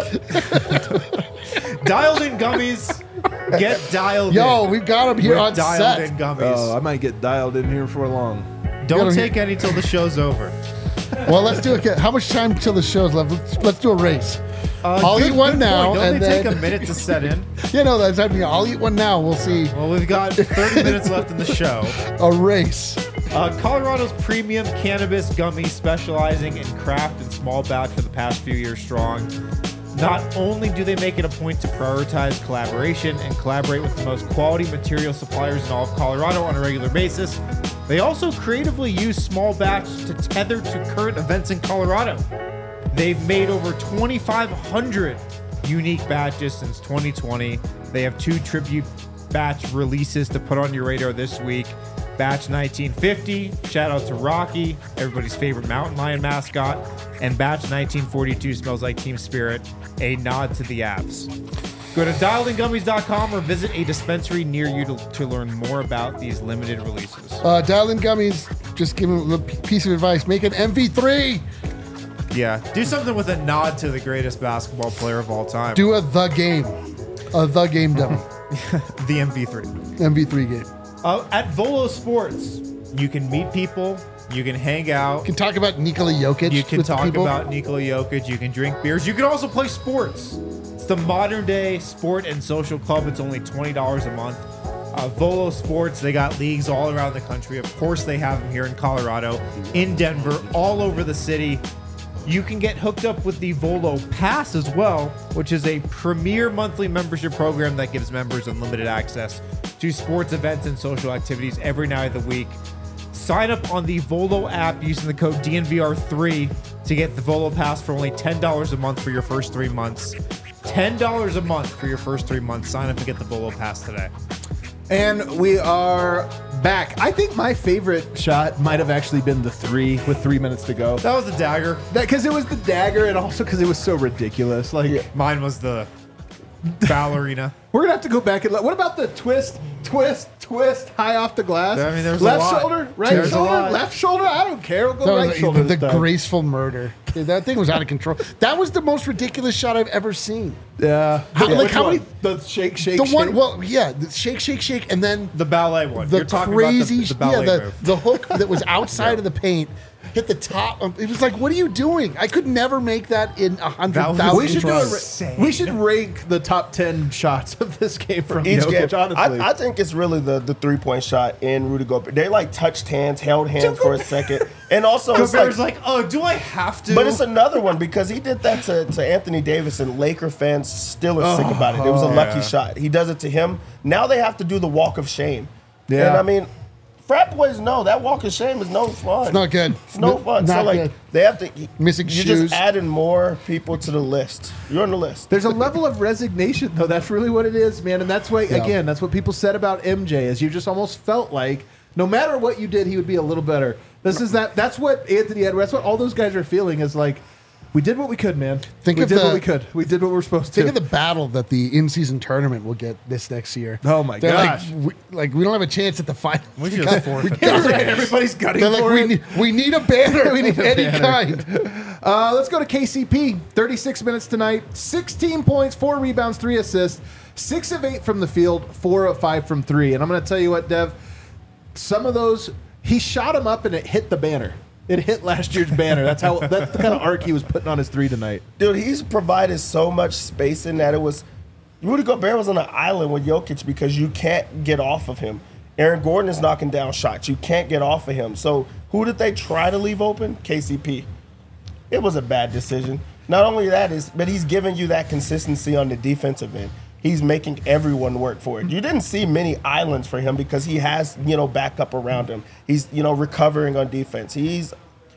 Dialed in gummies, get dialed Yo, in. we've got him here With on dialed set. in gummies. Oh, I might get dialed in here for long. Don't gotta- take any till the show's over. Well, let's do it. How much time till the show's left? Let's, let's do a race. Uh, I'll good- eat one good now, point. Don't and they then take a minute to set in? you know that's I mean, I'll eat one now. We'll see Well, we've got thirty minutes left in the show. a race. Uh, Colorado's premium cannabis gummy, specializing in craft and small batch for the past few years strong. Not only do they make it a point to prioritize collaboration and collaborate with the most quality material suppliers in all of Colorado on a regular basis, they also creatively use small batch to tether to current events in Colorado. They've made over twenty-five hundred unique batches since twenty twenty. They have two tribute batch releases to put on your radar this week. Batch nineteen fifty, shout out to Rocky, everybody's favorite mountain lion mascot, and Batch nineteen forty-two, smells like Team Spirit, a nod to the apps. Go to dialed in gummies dot com or visit a dispensary near you to, to learn more about these limited releases. Uh, Dial in Gummies. Just give him a little piece of advice. Make an M V three. Yeah, do something with a nod to the greatest basketball player of all time. Do a the game, a the game demo, the M V three. M V three game. Uh, at Volo Sports, you can meet people, you can hang out, You can talk about Nikola Jokic. you can with the talk people. about Nikola Jokic, you can drink beers, you can also play sports. It's the modern day sport and social club. It's only twenty dollars a month. Uh, Volo Sports, they got leagues all around the country. Of course, they have them here in Colorado, in Denver, all over the city. You can get hooked up with the Volo Pass as well, which is a premier monthly membership program that gives members unlimited access to sports events and social activities every night of the week. Sign up on the Volo app using the code D N V R three to get the Volo Pass for only ten dollars a month for your first three months. ten dollars a month for your first three months. Sign up to get the Volo Pass today. And we are back. I think my favorite shot might have actually been the three with three minutes to go. That was the dagger. That because it was the dagger, and also because it was so ridiculous. Like Mine was the ballerina. we're gonna have to go back and look. What about the twist, twist, twist, high off the glass? I mean, there's a left lot. shoulder, right There's a shoulder, lot. left shoulder. I don't care. We'll go That was right like shoulder. the this time. graceful murder. Dude, that thing was out of control. That was the most ridiculous shot I've ever seen. Yeah. How- Yeah. like Which how one? many- The shake, shake, The shake. one, well, yeah, the shake, shake, shake, and then The ballet one. the You're talking crazy, about the, the ballet yeah, the, move. the hook that was outside of the paint hit the top. Um, It was like, what are you doing? I could never make that in a hundred That was thousand we should do a, tries. Insane. We should rank the top ten shots of this game from Each Jokic. game, Honestly, I, I think it's really the, the three point shot in Rudy Gobert. They like touched hands, held hands for a second, and also it's Gobert's like, like, oh, do I have to? but it's another one because he did that to, to Anthony Davis, and Laker fans still are sick about it. It was a lucky yeah. shot. He does it to him. Now they have to do the walk of shame. Yeah. And I mean, frat boys know that walk of shame is no fun. It's not good. It's no fun. Not so like good. they have to Missing You're shoes. just adding more people to the list. You're on the list. there's a level of resignation, though. That's really what it is, man. And that's why, Yeah. again, that's what people said about M J. Is you just almost felt like no matter what you did, he would be a little better. This is that. That's what Anthony Edwards. That's what all those guys are feeling. Is like, we did what we could, man. Think we of did the- what we could. We did what we were supposed Think to. of the battle that the in-season tournament will get this next year. Oh, my They're gosh. Like we, like, we don't have a chance at the final. We should have forfeit. Everybody's gutting They're like, for we it. need, we need a banner We need of a any banner. kind. Uh, let's go to K C P. thirty-six minutes tonight. sixteen points, four rebounds, three assists. Six of eight from the field, four of five from three. And I'm going to tell you what, Dev, some of those, he shot them up and it hit the banner. It hit last year's banner. That's how. That's the kind of arc he was putting on his three tonight. Dude, he's provided so much spacing that it was Rudy Gobert was on an island with Jokic because you can't get off of him. Aaron Gordon is knocking down shots. You can't get off of him. So who did they try to leave open? K C P. It was a bad decision. Not only that is, but he's giving you that consistency on the defensive end. He's making everyone work for it. You didn't see many islands for him because he has, you know, backup around him. He's, you know, recovering on defense. He's,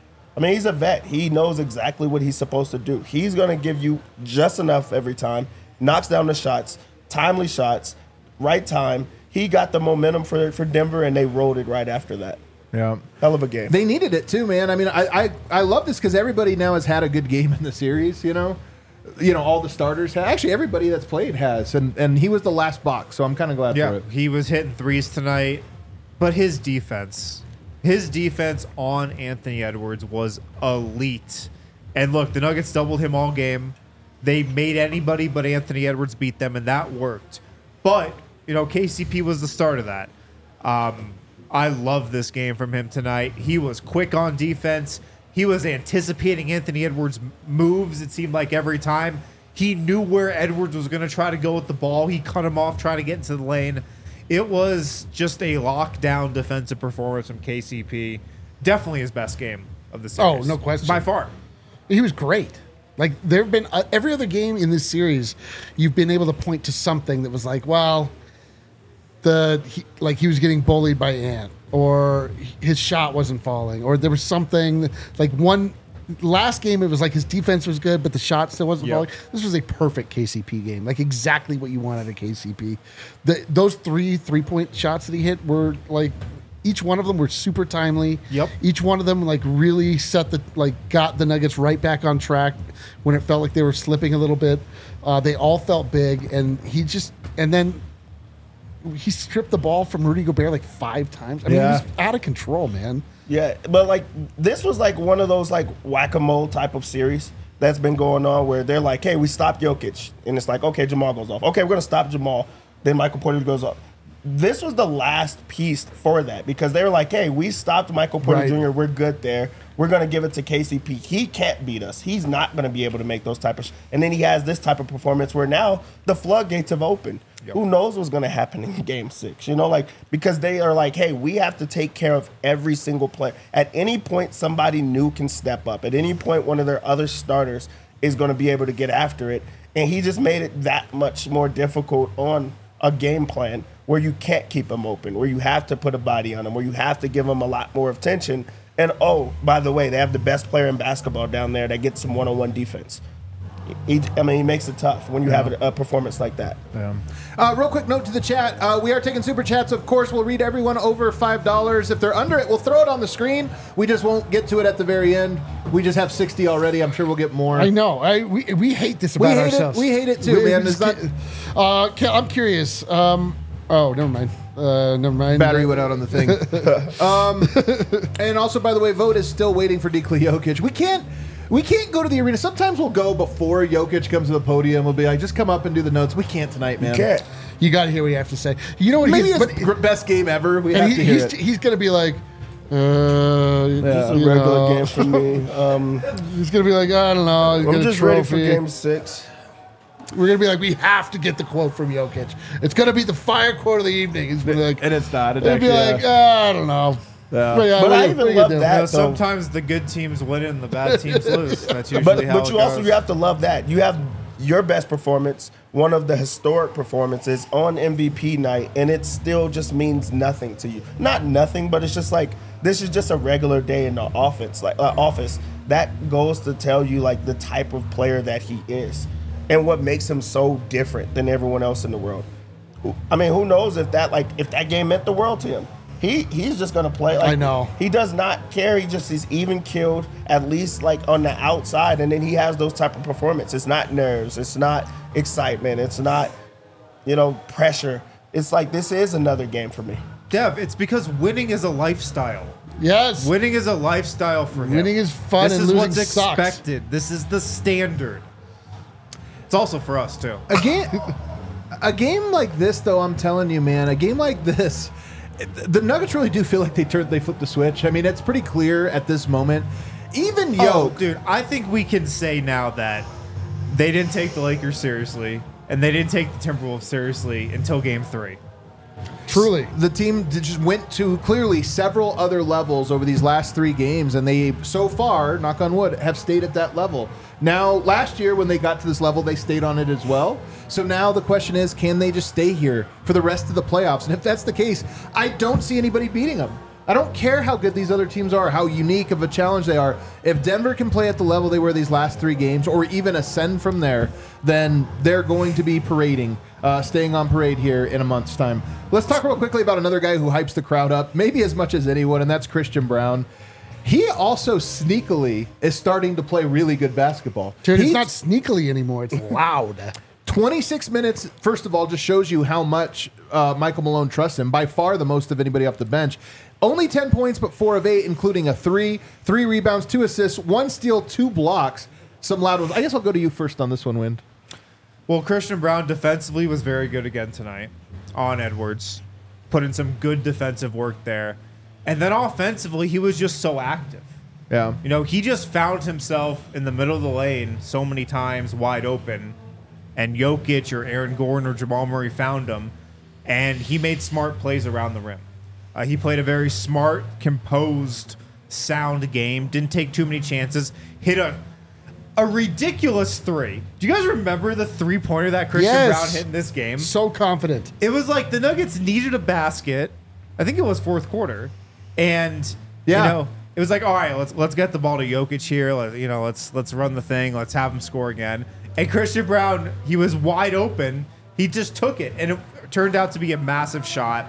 I mean, he's a vet. He knows exactly what he's supposed to do. He's going to give you just enough every time, knocks down the shots, timely shots, right time. He got the momentum for, for Denver, and they rolled it right after that. Yeah. Hell of a game. They needed it too, man. I mean, I I, I love this because everybody now has had a good game in the series. You know, you know all the starters. Have. Actually, everybody that's played has, and and he was the last box, so I'm kind of glad for Yeah, it. he was hitting threes tonight, but his defense, his defense on Anthony Edwards was elite. And look, the Nuggets doubled him all game. They made anybody but Anthony Edwards beat them, and that worked. But, you know, K C P was the start of that. Um, I love this game from him tonight. He was quick on defense. He was anticipating Anthony Edwards' moves, it seemed like, every time. He knew where Edwards was going to try to go with the ball. He cut him off trying to get into the lane. It was just a lockdown defensive performance from K C P. Definitely his best game of the series. Oh, no question. By far. He was great. Like there have been uh, every other game in this series, you've been able to point to something that was like, well, the he, like he was getting bullied by Ant, or his shot wasn't falling, or there was something like one last game. It was like his defense was good, but the shot still wasn't Yep. falling. This was a perfect K C P game, like exactly what you wanted at K C P. The, those three three point shots that he hit were like. Each one of them were super timely. Yep. Each one of them like really set the like got the Nuggets right back on track when it felt like they were slipping a little bit. Uh, they all felt big, and he just and then he stripped the ball from Rudy Gobert like five times. I mean, Yeah. he was out of control, man. Yeah, but like this was like one of those like whack-a-mole type of series that's been going on where they're like, hey, we stopped Jokic. And it's like, okay, Jamal goes off. Okay, we're going to stop Jamal. Then Michael Porter goes off. This was the last piece for that because they were like, hey, we stopped Michael Porter Right. Junior We're good there. We're going to give it to K C P. He can't beat us. He's not going to be able to make those type of sh- And then he has this type of performance where now the floodgates have opened. Who knows what's going to happen in game six? You know, like, because they are like, hey, we have to take care of every single player. At any point, somebody new can step up. At any point, one of their other starters is going to be able to get after it. And he just made it that much more difficult on a game plan where you can't keep him open, where you have to put a body on him, where you have to give him a lot more attention. And, oh, by the way, they have the best player in basketball down there that gets some one-on-one defense. He, I mean, he makes it tough when you have a, a performance like that. Yeah. Uh, real quick note to the chat. Uh, we are taking super chats. Of course, we'll read everyone over five dollars. If they're under it, we'll throw it on the screen. We just won't get to it at the very end. We just have sixty already. I'm sure we'll get more. I know. I we, we hate this We about hate it. ourselves. We hate it too, man. just It's can't- uh, ca- I'm curious. Um, oh, never mind. Uh, never mind. Battery went out on the thing. um, and also, by the way, vote is still waiting for Nikola Jokic. We can't. We can't go to the arena. Sometimes we'll go before Jokic comes to the podium. We'll be like, just come up and do the notes. We can't tonight, man. You can't. You got to hear what you have to say. You know what? Maybe he's, it's but- gr- best game ever. We and have he- to hear he's, it. he's going to be like, uh, It's a you regular know, game for me. Um, He's going to be like, I don't know. He's I'm got a just ready for trophy. game six. We're going to be like, we have to get the quote from Jokic. It's going to be the fire quote of the evening. He's gonna be like, and it's not. It he'll be actually, like, uh, "Ah, I don't know. Yeah. But, yeah, But what I you- even what you love do? that. You know, though. sometimes the good teams win and the bad teams lose. That's usually But how but it you also goes. you have to love that. You have your best performance, one of the historic performances on M V P night, and it still just means nothing to you. Not nothing, but it's just like this is just a regular day in the office. Like uh, office that goes to tell you like the type of player that he is, and what makes him so different than everyone else in the world. I mean, who knows if that like if that game meant the world to him. He he's just gonna play. Like, I know. He does not care. He just is even killed, at least like on the outside, and then he has those type of performance. It's not nerves. It's not excitement. It's not, you know, pressure. It's like this is another game for me. Dev, it's because winning is a lifestyle. Yes. Winning is a lifestyle for him. Winning is fun This and is losing what's sucks. expected. This is the standard. It's also for us too. A game, a game like this, though, I'm telling you, man, a game like this, the Nuggets really do feel like they turned, they flipped the switch. I mean, it's pretty clear at this moment. Even Yo, Oh, dude, I think we can say now that they didn't take the Lakers seriously and they didn't take the Timberwolves seriously until Game Three. Truly. the team d- just went to clearly several other levels over these last three games, and they so far, knock on wood, have stayed at that level. Now, last year when they got to this level, they stayed on it as well. So now the question is, can they just stay here for the rest of the playoffs? And if that's the case, I don't see anybody beating them. I don't care how good these other teams are, how unique of a challenge they are. If Denver can play at the level they were these last three games, or even ascend from there, then they're going to be parading, uh, staying on parade here in a month's time. Let's talk real quickly about another guy who hypes the crowd up, maybe as much as anyone, and that's Christian Brown. He also sneakily is starting to play really good basketball. Dude, it's He's- not sneakily anymore. It's loud. twenty-six minutes, first of all, just shows you how much uh, Michael Malone trusts him. By far the most of anybody off the bench. Only ten points, but four of eight, including a three, three rebounds, two assists, one steal, two blocks. Some loud ones. I guess I'll go to you first on this one, Wind. Well, Christian Brown defensively was very good again tonight on Edwards. Put in some good defensive work there. And then offensively, he was just so active. Yeah. You know, he just found himself in the middle of the lane so many times wide open. And Jokic or Aaron Gordon or Jamal Murray found him. And he made smart plays around the rim. Uh, he played a very smart, composed, sound game. Didn't take too many chances. Hit a a ridiculous three. Do you guys remember the three-pointer that Christian Yes. Brown hit in this game? So confident. It was like the Nuggets needed a basket. I think it was fourth quarter, and Yeah. you know it was like, all right, let's let's get the ball to Jokic here. Let, you know, let's let's run the thing. Let's have him score again. And Christian Brown, he was wide open. He just took it, and it turned out to be a massive shot.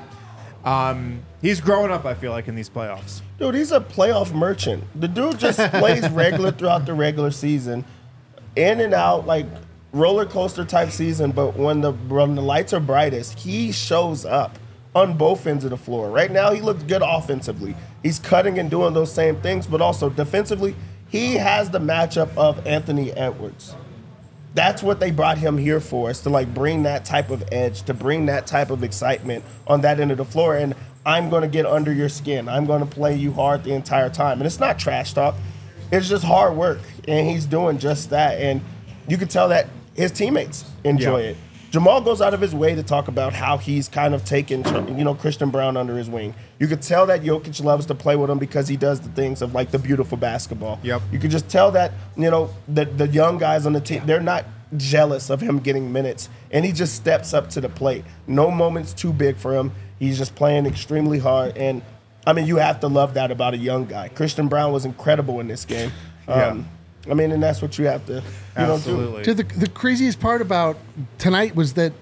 Um, he's growing up, I feel like, in these playoffs. Dude, he's a playoff merchant. The dude just plays regular throughout the regular season, in and out. Like roller coaster type season, but when the when the lights are brightest, he shows up on both ends of the floor. Right now, he looks good offensively. He's cutting and doing those same things, but also defensively, he has the matchup of Anthony Edwards. That's what they brought him here for, is to like bring that type of edge, to bring that type of excitement on that end of the floor. And I'm going to get under your skin. I'm going to play you hard the entire time. And it's not trash talk. It's just hard work. And he's doing just that. And you can tell that his teammates enjoy Yeah. it. Jamal goes out of his way to talk about how he's kind of taken, you know, Christian Brown under his wing. You could tell that Jokic loves to play with him because he does the things of like the beautiful basketball. Yep. You could just tell that, you know, the the young guys on the team, they're not jealous of him getting minutes, and he just steps up to the plate. No moment's too big for him. He's just playing extremely hard, and I mean, you have to love that about a young guy. Christian Brown was incredible in this game. Um, I mean, and that's what you have to, you know, do. Absolutely. Dude, the, the craziest part about tonight was that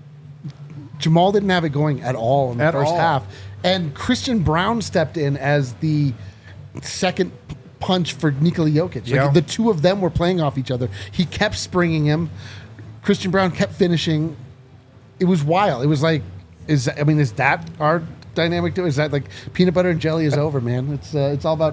Jamal didn't have it going at all in the At first all. half. And Christian Brown stepped in as the second p- punch for Nikola Jokic. Like Yeah. the two of them were playing off each other. He kept springing him. Christian Brown kept finishing. It was wild. It was like, is I mean, is that our dynamic too? Is that like peanut butter and jelly is over, man? It's uh, it's all about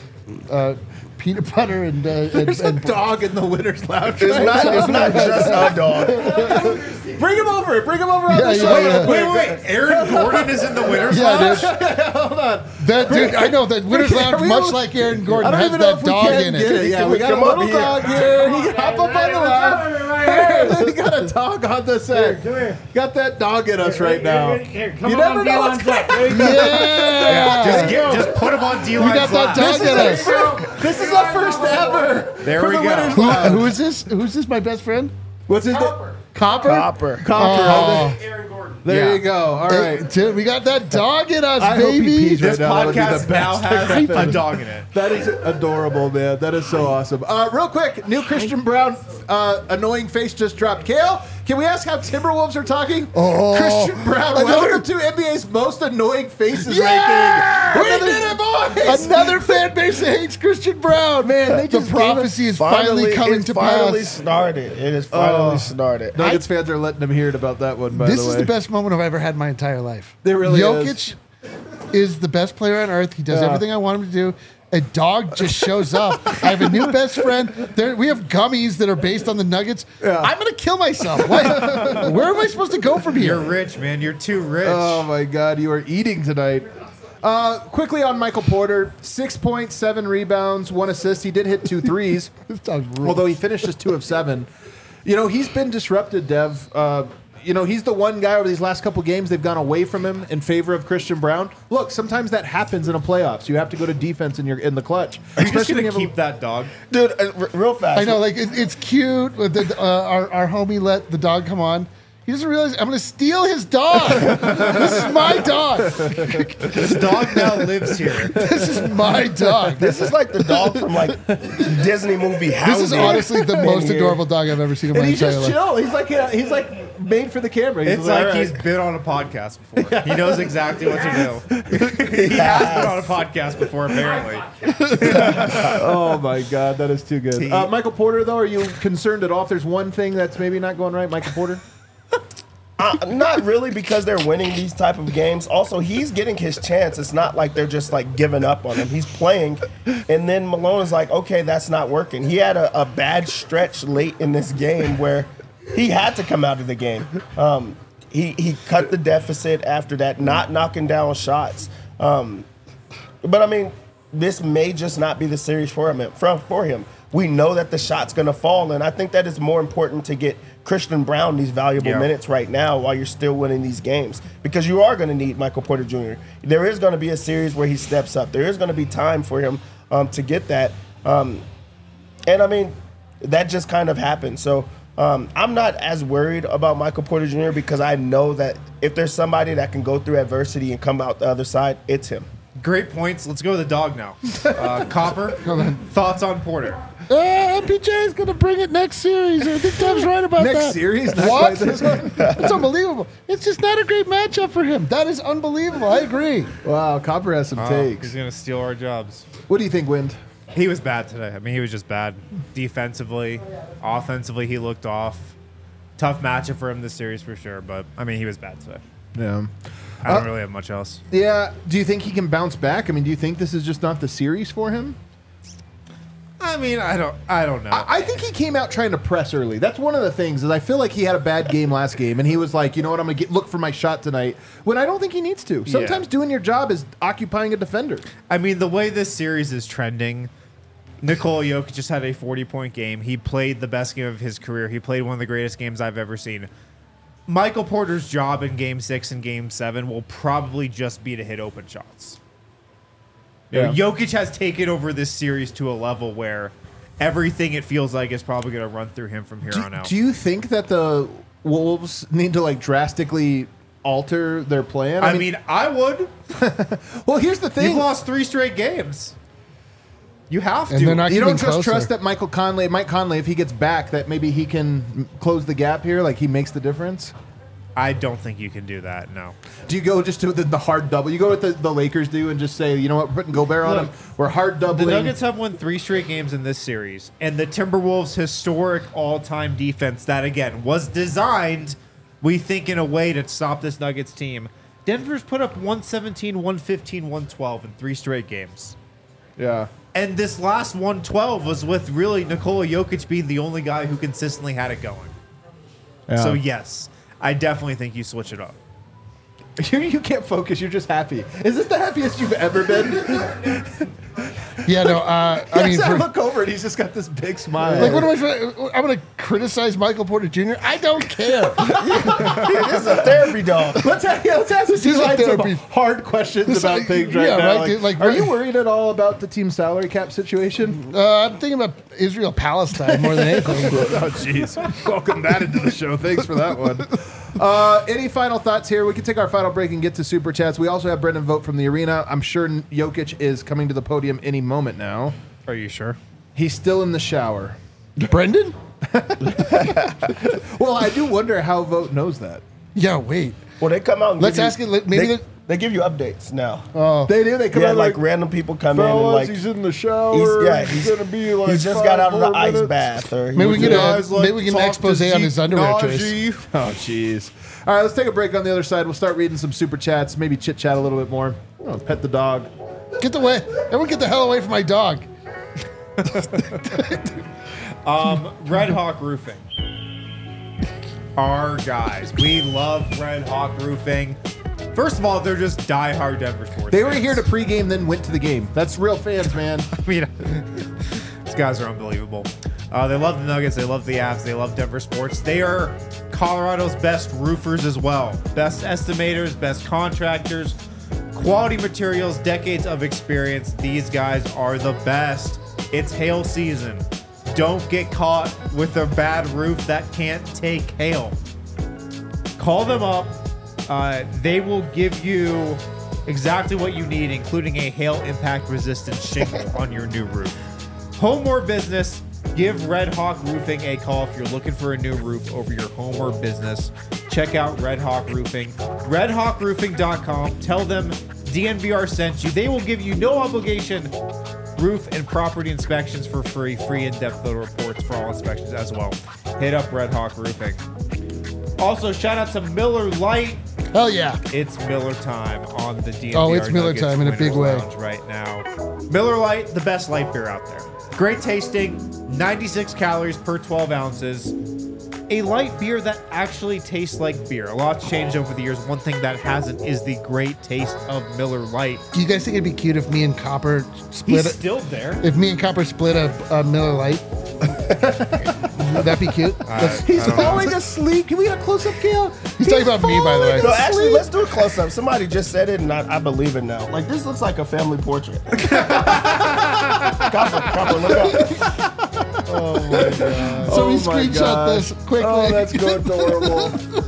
uh, peanut butter and uh, and, There's a and dog in the winner's lounge. It's right not, now. it's not just a dog. Bring him over. Bring him over on Yeah, the yeah, show. yeah. Wait, wait, wait. Aaron Gordon is in the winner's yeah, lounge? dude. Hold on. That dude, I know that Winners Lounge, we- much like Aaron Gordon, I don't has even know that if we dog can in get it. it. Yeah, Can we we got a come up little here? dog here. He can hop up on the lap. We got a dog on the set. Come here. Got that dog in us right now. Here, here, come You on, never know what's Dylan's up. There you go. Yeah, Just, get, just put him on D-Line's we got that lap. dog in us. This is our first ever. There for we the go. Winners Who, Lounge. who is this? Who's this? My best friend? What's his name? Copper. Copper. Copper. Oh. Aaron Gordon. There Yeah. you go. All Hey, right. dude, we got that dog in us, I hope he baby. pees right This now. That would be the podcast now best has thing a ever. dog in it. That is adorable, man. That is so awesome. Uh, real quick, new Christian Brown uh, annoying face just dropped. Kale, can we ask how Timberwolves are talking? Oh. Christian Brown, Another- welcome to N B A's most annoying faces Yeah! ranking. We Another- did it, boys! Another fan base that hates Christian Brown. Man, they the just prophecy is finally, coming it's to finally pass. started. It is finally Oh. started. Nuggets fans are letting them hear it about that one, by This the way. is the best moment I've ever had in my entire life. It really Jokic is. the best player on earth. He does Yeah. everything I want him to do. A dog just shows up. I have a new best friend. There, we have gummies that are based on the Nuggets. I'm gonna kill myself. What? Where am I supposed to go from here? You're rich, man. You're too rich. Oh my God, you are eating tonight. Uh, quickly on Michael Porter, six point seven rebounds, one assist. He did hit two threes, This dog rules. although he finished just two of seven. You know, he's been disrupted, Dev. Uh, you know, he's the one guy over these last couple games they've gone away from him in favor of Christian Brown. Look, sometimes that happens in a playoffs. You have to go to defense in your in the clutch. Are you just Especially when going to you have keep that dog? Dude, uh, r- real fast. I know, like it, it's cute. But the, uh, our our homie let the dog come on. He doesn't realize I'm going to steal his dog. This is my dog. This dog now lives here. This is my dog. This is like the dog from like Disney movie House. This is honestly the most adorable dog I've ever seen in a, my and he's entire just life. chill. He's like uh, he's like made for the camera. He's It's all like right. he's been on a podcast before. He knows exactly what to do. He has been on a podcast before, apparently. Oh my God, that is too good. T- Uh, Michael Porter, though, are you concerned at all if there's one thing that's maybe not going right, Michael Porter? Uh, not really, because they're winning these type of games. Also, he's getting his chance. It's not like they're just like giving up on him. He's playing, and then Malone is like, okay, that's not working. He had a, a bad stretch late in this game where he had to come out of the game. Um, he he cut the deficit after that, not knocking down shots. Um, but I mean, this may just not be the series for him. For, for him, we know that the shot's going to fall, and I think that is more important to get Christian Brown these valuable Yeah. minutes right now while you're still winning these games, because you are going to need Michael Porter Junior There is going to be a series where he steps up. There is going to be time for him um, to get that, um, and I mean, that just kind of happened. So um, I'm not as worried about Michael Porter Junior because I know that if there's somebody that can go through adversity and come out the other side, it's him. Great points. Let's go to the dog now. Uh, Copper, thoughts on Porter? Uh, M P J is going to bring it next series. I think Dev's right about Next that. series? Not What? quite this one? It's unbelievable. It's just not a great matchup for him. That is unbelievable. I agree. Wow, Copper has some Oh, takes. he's going to steal our jobs. What do you think, Wind? He was bad today. I mean, he was just bad. Defensively, offensively, he looked off. Tough matchup for him this series for sure, but I mean, he was bad today. Yeah. I don't Uh, really have much else. Yeah. Do you think he can bounce back? I mean, do you think this is just not the series for him? I mean, I don't, I don't know. I, I think he came out trying to press early. That's one of the things. Is I feel like he had a bad game last game, and he was like, you know what, I'm gonna get, look for my shot tonight. When I don't think he needs to. Sometimes Yeah. doing your job is occupying a defender. I mean, the way this series is trending, Nikola Jokic just had a forty-point game. He played the best game of his career. He played one of the greatest games I've ever seen. Michael Porter's job in Game Six and Game Seven will probably just be to hit open shots. You know, Yeah. Jokic has taken over this series to a level where everything it feels like is probably going to run through him from here Do, on out. do you think that the Wolves need to like drastically alter their plan? I mean, I would. well, here's the You've thing. lost three straight games. You have And to. they're not You don't getting just closer. trust that Michael Conley, Mike Conley, if he gets back, that maybe he can m- close the gap here, like he makes the difference? I don't think you can do that. No. Do you go just to the, the hard double? You go with the, the Lakers do and just say, you know what, we're putting Gobert on Look, him. We're hard The doubling. Nuggets have won three straight games in this series, and the Timberwolves' historic all-time defense that, again, was designed, we think, in a way to stop this Nuggets team. Denver's put up one seventeen, one fifteen, one twelve in three straight games. Yeah. And this last one twelve was with really Nikola Jokic being the only guy who consistently had it going. Yeah. So, yes, I definitely think you switch it up. You, you can't focus. You're just happy. Is this the happiest you've ever been? Yeah, no. Uh, I mean, Yes, I for, look over and he's just got this big smile. like, what am I trying? I'm going to criticize Michael Porter Junior I don't care. This is a therapy dog. Let's, ha- yeah, let's ask This two is like sides some therapy. hard questions This about like- things right yeah, now. right, Like, dude, like, are right- you worried at all about the team salary cap situation? Uh, I'm thinking about Israel Palestine more than anything. Oh, jeez. Welcome that into the show. Thanks for that one. Uh, any final thoughts here? We can take our final break and get to Super Chats. We also have Brendan Vogt from the arena. I'm sure Jokic is coming to the podium any moment now. Are you sure? He's still in the shower. Brendan? Well, I do wonder how Vogt knows that. Yeah, wait. Well, they come out and Let's give you- ask it, let- maybe they, the- they give you updates now. Oh, They do. They come yeah, out like, like, random people come in and fellas, like he's in the shower. he's, yeah, he's, he's gonna be like. he's just five got out of the more ice minutes. bath. Or he maybe we was can get just- a maybe we get an expose on his underwear choice. Oh, jeez. All right, let's take a break on the other side. We'll start reading some super chats, maybe chit chat a little bit more. Oh, pet the dog. Get the way. Everyone, get the hell away from my dog. Um, Red Hawk Roofing. Our guys. We love Red Hawk Roofing. First of all, they're just diehard Denver sports. They were fans. here to pregame, then went to the game. That's real fans, man. I mean, these guys are unbelievable. Uh, they love the Nuggets. They love the Avs. They love Denver sports. They are Colorado's best roofers as well. Best estimators, best contractors, quality materials, decades of experience. These guys are the best. It's hail season. Don't get caught with a bad roof that can't take hail. Call them up. Uh, they will give you exactly what you need, including a hail impact resistant shingle on your new roof. Home or business, give Red Hawk Roofing a call if you're looking for a new roof over your home or business. Check out Red Hawk Roofing. red hawk roofing dot com. Tell them D N V R sent you. They will give you no obligation roof and property inspections for free. Free in-depth photo reports for all inspections as well. Hit up Red Hawk Roofing. Also, shout out to Miller Lite. Hell yeah. It's Miller time on the D N V R Oh, it's Miller Nuggets time in a Winners big way. Lounge right now. Miller Lite, the best light beer out there. Great tasting, ninety-six calories per twelve ounces. A light beer that actually tastes like beer. A lot's changed over the years. One thing that hasn't is the great taste of Miller Lite. Do you guys think it'd be cute if me and Copper split He's it? still there. If me and Copper split a, a Miller Lite? Would that be cute? Let's- He's falling asleep. Can we get a close up, Gail? He's talking about me, by the way. No, actually, let's do a close up. Somebody just said it, and I, I believe it now. Like, this looks like a family portrait. Copper, Copper, look up. Oh my god. So we Oh my screenshot God. this quickly. Oh, that's go adorable.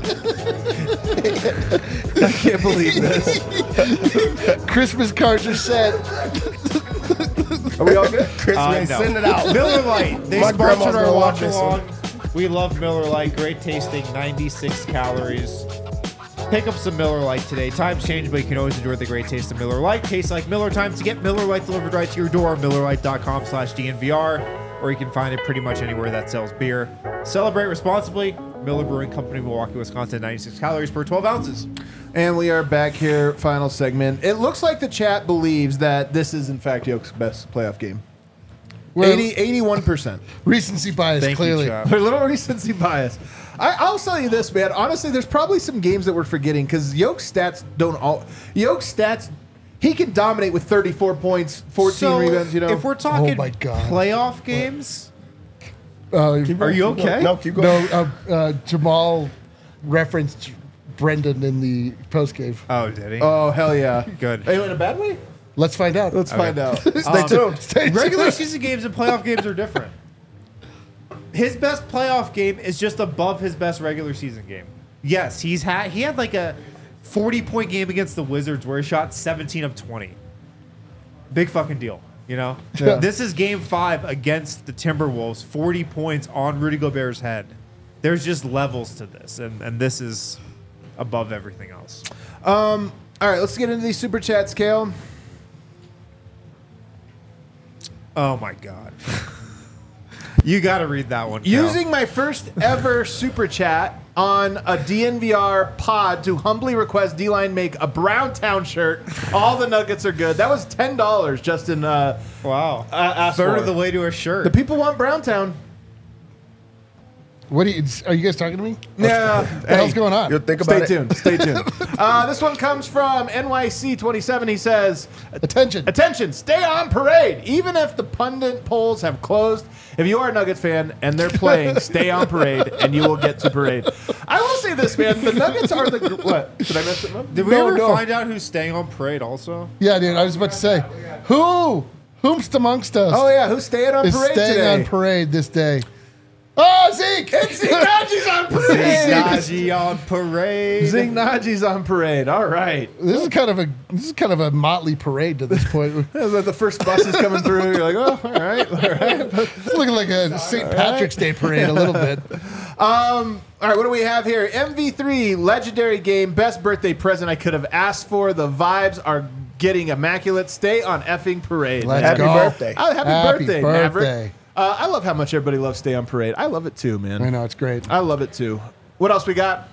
I can't believe this. Christmas cards are sent. Are we all good? Chris, Uh, man, no. send it out. Miller Lite. They My grandma's sponsored our gonna love watch this along. one. We love Miller Lite. Great tasting, ninety-six calories. Pick up some Miller Lite today. Times change, but you can always enjoy the great taste of Miller Lite. Tastes like Miller time. To get Miller Lite delivered right to your door, Miller Lite dot com slash D N V R, or you can find it pretty much anywhere that sells beer. Celebrate responsibly. Miller Brewing Company, Milwaukee, Wisconsin, ninety-six calories per twelve ounces. And we are back here, final segment. It looks like the chat believes that this is, in fact, Yoke's best playoff game. Well, eighty, eighty-one percent. Recency bias, Thank you, clearly. Chad. A little recency bias. I, I'll tell you this, man. Honestly, there's probably some games that we're forgetting because Yoke's stats don't all. Yoke's stats, he can dominate with thirty-four points, fourteen So, rebounds. You know, if we're talking Oh my God. playoff games, Uh, are you okay? No, keep no, going. uh, uh, Jamal referenced Brendan in the post game. Oh, did he? oh hell yeah, Good. Are you in a bad way? Let's find out. Let's find out. Stay Um, tuned. Stay Regular tuned. season games and playoff games are different. His best playoff game is just above his best regular season game. Yes, he's had he had like a forty point game against the Wizards where he shot seventeen of twenty. Big fucking deal, you know? Yeah. This is game five against the Timberwolves, forty points on Rudy Gobert's head. There's just levels to this, and, and this is above everything else. Um. All right, let's get into these super chats, Kale. Oh my God. You got to read that one, Cal. Using my first ever super chat on a D N V R pod to humbly request D-Line make a Browntown shirt. All the Nuggets are good. That was ten dollars, Justin. Uh, Wow. uh, asked Third for. of the way to a shirt. The people want Browntown. What do you, are you guys talking to me? Yeah. What the hell's going on? You'll think Stay about it. tuned. Stay tuned. Uh, this one comes from N Y C twenty-seven. He says, Attention. attention, stay on parade. Even if the pundit polls have closed, if you are a Nuggets fan and they're playing, stay on parade and you will get to parade. I will say this, man. The Nuggets are the... gr- What? Did I mess it up? Did we No, ever no. find out who's staying on parade also? Yeah, dude, I was about to say, who, whomst amongst us Oh, yeah. Who's staying on is parade staying today? on parade this day? Oh, Zeke! Zeke Naji's on parade. Najee on parade. Zeke Naji's on parade. All right. This is kind of a this is kind of a motley parade to this point. The first bus is coming through. You're like, oh, all right, all right. It's looking like a Saint Patrick's Day parade a little bit. Um, all right, what do we have here? M V three, legendary game, best birthday present I could have asked for. The vibes are getting immaculate. Stay on effing parade. Let's man. Happy go. birthday. Oh, happy, Happy birthday, birthday. Maverick. Uh, I love how much everybody loves Stay on Parade. I love it too, man. I know it's great. I love it too. What else we got?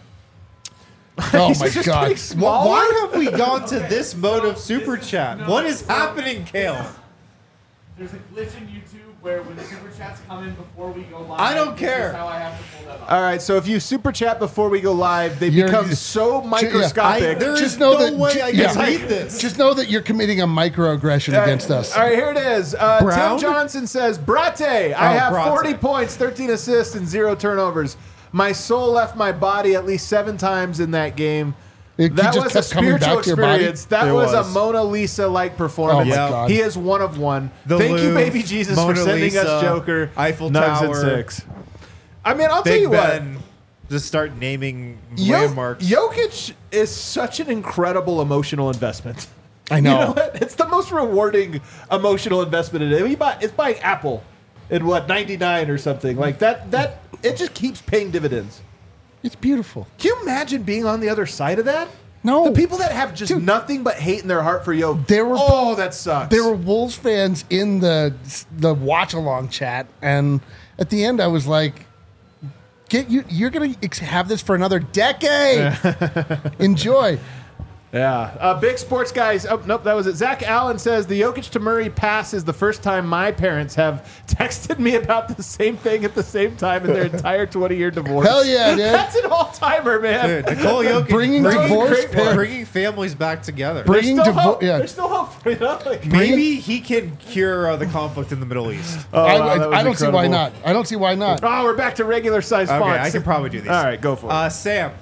Oh These my are just god! pretty small. Why have we gone to this mode of super chat? What is happening, Kale? There's a glitch in YouTube where when the super chats come in before we go live, I don't this care. is how I have to pull that up. All right, so if you super chat before we go live, they You're- become so microscopic. I- there Just is know no that- way ju- I can yeah. read this. Just know that you're committing a microaggression against us. All right, here it is. Uh, Brown? Tim Johnson says, Brate, I Oh, have Brate. forty points, thirteen assists, and zero turnovers. My soul left my body at least seven times in that game. It- he That just was a kept coming spiritual back to your body? experience. That It was, was. a Mona Lisa-like performance. Oh my Yeah. god! He is one of one. The Thank you, Louvre, baby Jesus, Mona for sending Lisa, us Joker. Eiffel Nugs Tower, and six. I mean, I'll tell Big you what. Ben. Just start naming Yo- landmarks. Jokic is such an incredible emotional investment. I You know. know what? It's the most rewarding emotional investment in it. We buy, it's buying Apple in what ninety-nine or something like that. That it just keeps paying dividends. It's beautiful. Can you imagine being on the other side of that? No. The people that have just Dude. nothing but hate in their heart for Yo. There were- oh, that sucks. There were Wolves fans in the the watch along chat, and at the end, I was like, "Get you! You're gonna ex- have this for another decade. Enjoy." Yeah. Uh, big sports guys. Oh, nope, that was it. Zach Allen says the Jokic to Murray pass is the first time my parents have texted me about the same thing at the same time in their entire twenty-year divorce. Hell yeah, dude. That's an all-timer, man. Dude, Nicole Jokic Bringing bringing, divorce great parents- bringing families back together. There's Bringing still divo- hope. yeah. There's still hope. You know? Like, Maybe he can cure uh, the conflict in the Middle East. oh, I, wow, that was I don't see why incredible. not. I don't see why not. Oh, we're back to regular size Okay, fonts. I can probably do these. All right, go for it. Uh, Sam,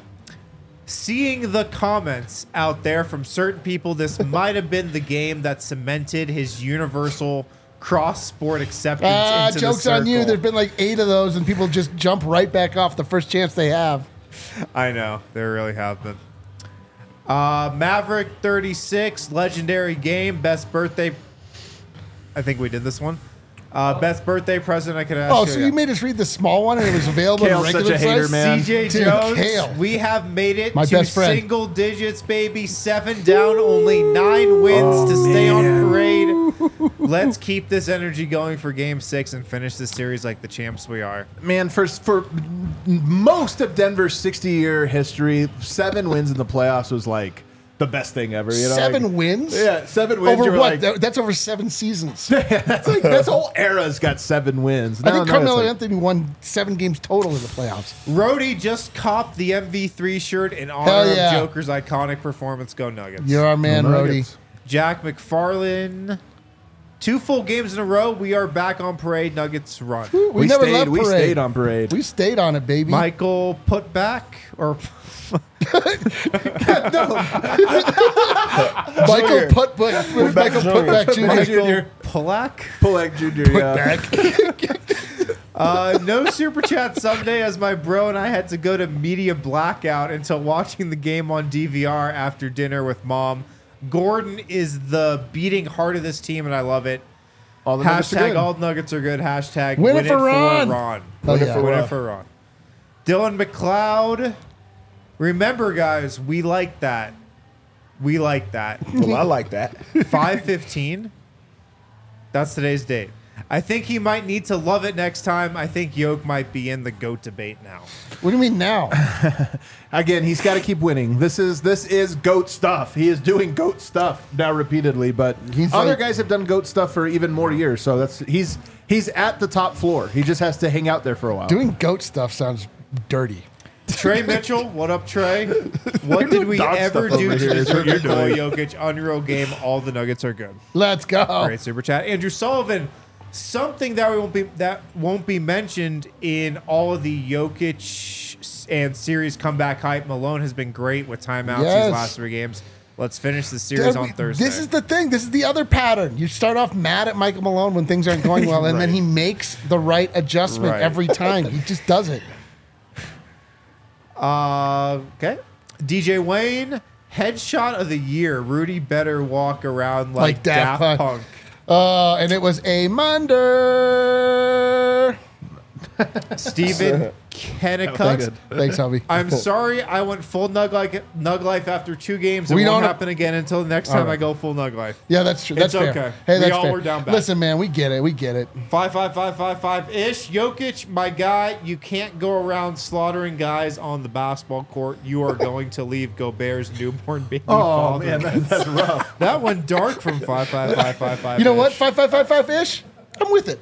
seeing the comments out there from certain people, this might have been the game that cemented his universal cross-sport acceptance Ah, into joke's the on you. circle. There's been like eight of those, and people just jump right back off the first chance they have. I know. There really have been. Uh, Maverick thirty-six, legendary game, best birthday. I think we did this one. Uh, best birthday present I could ask Oh, you. so yeah. you made us read the small one and it was available in Kale's such regular a hater, size? man. C J Dude, Jones, Kale. we have made it My to best friend. single digits, baby. Seven down, only nine wins to stay on parade. Let's keep this energy going for game six and finish this series like the champs we are. Man, for for most of Denver's sixty-year history, seven wins in the playoffs was like the best thing ever. You know, Seven like, wins? Yeah, seven wins. Over you were what? like- That- that's over seven seasons. that's like this whole era's got seven wins. I think Now- now Carmelo it's like- Anthony won seven games total in the playoffs. Rhodey just copped the M V three shirt in honor Hell yeah. of Joker's iconic performance. Go Nuggets. You're our man, Go Rhodey. Nuggets. Jack McFarlane. Two full games in a row. We are back on parade. Nuggets run. We, We, never stayed. left We parade. stayed on parade. We stayed on it, baby. Michael Putback or Michael Junior. Put, put, Michael Junior. Putback Junior Michael Polak. Pulak Junior Yeah. Uh, no super chat Sunday as my bro and I had to go to media blackout until watching the game on D V R after dinner with mom. Gordon is the beating heart of this team, and I love it. All the nuggets are Hashtag good. all Nuggets are good. Hashtag Win it for Ron. Ron. Oh, Win it yeah. for, win Ron. it for Ron. Dylan McLeod. Remember, guys, we like that. We like that. Well, I like that. five fifteen. That's today's date. I think he might need to love it next time. I think Yoke might be in the GOAT debate now. What do you mean now? Again, he's got to keep winning. This is this is GOAT stuff. He is doing GOAT stuff now repeatedly, but He's other like- guys have done GOAT stuff for even more years. So that's he's he's at the top floor. He just has to hang out there for a while. Doing goat stuff sounds dirty. Trey Mitchell, what up, Trey? What did we dog ever stuff do over to here is deserve what you're Nikola doing. Jokic? Unreal game. All the Nuggets are good. Let's go. Great super chat. Andrew Sullivan. Something that we won't be that won't be mentioned in all of the Jokic and series comeback hype. Malone has been great with timeouts Yes. these last three games. Let's finish the series Dude, on we- Thursday. This is the thing. This is the other pattern. You start off mad at Michael Malone when things aren't going well, and then Right. he makes the right adjustment Right. every time. He just does it. Uh, okay. D J Wayne, headshot of the year. Rudy better walk around like, Like Daft Daft, Punk. Punk. Uh, and it was a Munder. Stephen Kennicott. Thanks, Hubby. I'm sorry I went full Nug, like, Nug Life after two games. It We won't don't- happen again until the next All time right. I go full Nug Life. Yeah, that's true. That's It's fair. okay. Hey, We that's all fair. were down bad. Listen, man, we get it. We get it. Five, five, five, five, five ish. Jokic, my guy, you can't go around slaughtering guys on the basketball court. You are going to leave Gobert's newborn baby Oh father. man, that, that's rough. That went dark from five, five, five, five, five. You know what? Five, five, five, five ish. I'm with it.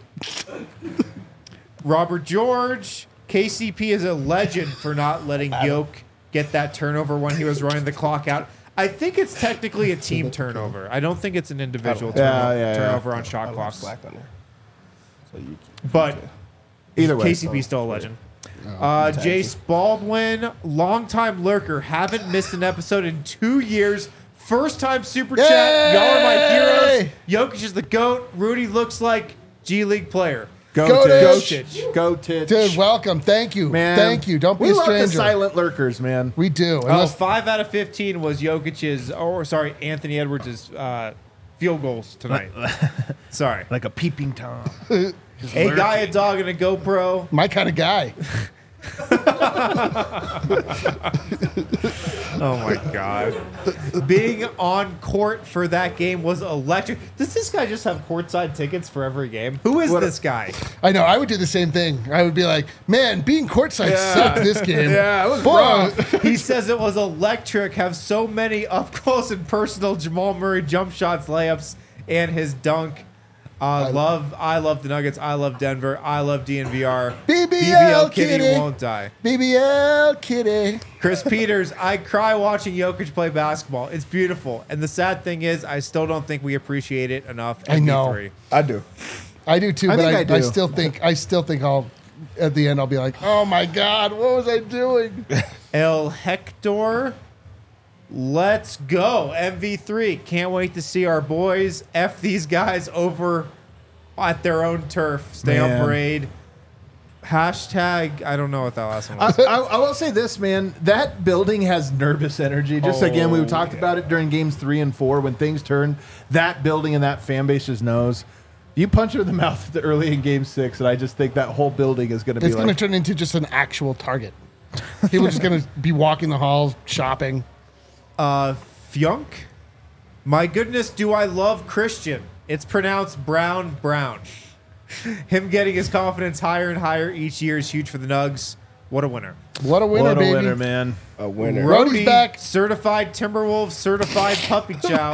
Robert George, K C P is a legend for not letting Yoke get that turnover when he was running the clock out. I think it's technically a team turnover. I don't think it's an individual Yeah, turnover, yeah, yeah. turnover on I shot love clocks. slack on there. So you, But Either way, K C P still a legend. Uh, Jace Baldwin, longtime lurker, haven't missed an episode in two years. First time super chat. Yay! Y'all are my heroes. Jokic is the GOAT. Rudy looks like G League player. go Go Titch. Titch. Go Titch. Dude, welcome. Thank you. man. Thank you. Don't be we a love the stranger. silent lurkers, man. We do. Oh, Unless, five out of fifteen was Jokic's, or sorry, Anthony Edwards' uh, field goals tonight. Sorry. Like a peeping tom. A guy, a dog, and a GoPro. my kind of guy. Oh my God. Being on court for that game was electric. Does this guy just have courtside tickets for every game? Who is What- this guy? I know. I would do the same thing. I would be like, man, being courtside sucked this game. Yeah, it was Boy, rough. He says it was electric, have so many up close and personal Jamal Murray jump shots, layups, and his dunk. Uh, love, I love the Nuggets. I love Denver. I love D N V R. B B L B B L Kitty Kitty. won't die. B B L kitty. Chris Peters, I cry watching Jokic play basketball. It's beautiful. And the sad thing is, I still don't think we appreciate it enough. I know. M V three. I do. I do too, I but think I, I do. I still think I still think I'll at the end I'll be like, oh my God, what was I doing? El Hector, let's go. M V three. Can't wait to see our boys F these guys over at their own turf. Stay Man. on parade. Hashtag, I don't know what that last one I, was. I, I will say this, man. That building has nervous energy. Just again, we Oh, talked about it during games three and four when things turn. That building and that fan base just knows. You punch him in the mouth early in Game Six, and I just think that whole building is going to be It's going to like. turn into just an actual target. People are just going to be walking the halls, shopping. Uh, Fyunk. My goodness, do I love Christian? It's pronounced Brown Brown. Him getting his confidence higher and higher each year is huge for the Nugs. What a winner. What a winner, what a baby. winner, man! A winner. Brody's Brody, back. certified Timberwolves, certified puppy chow.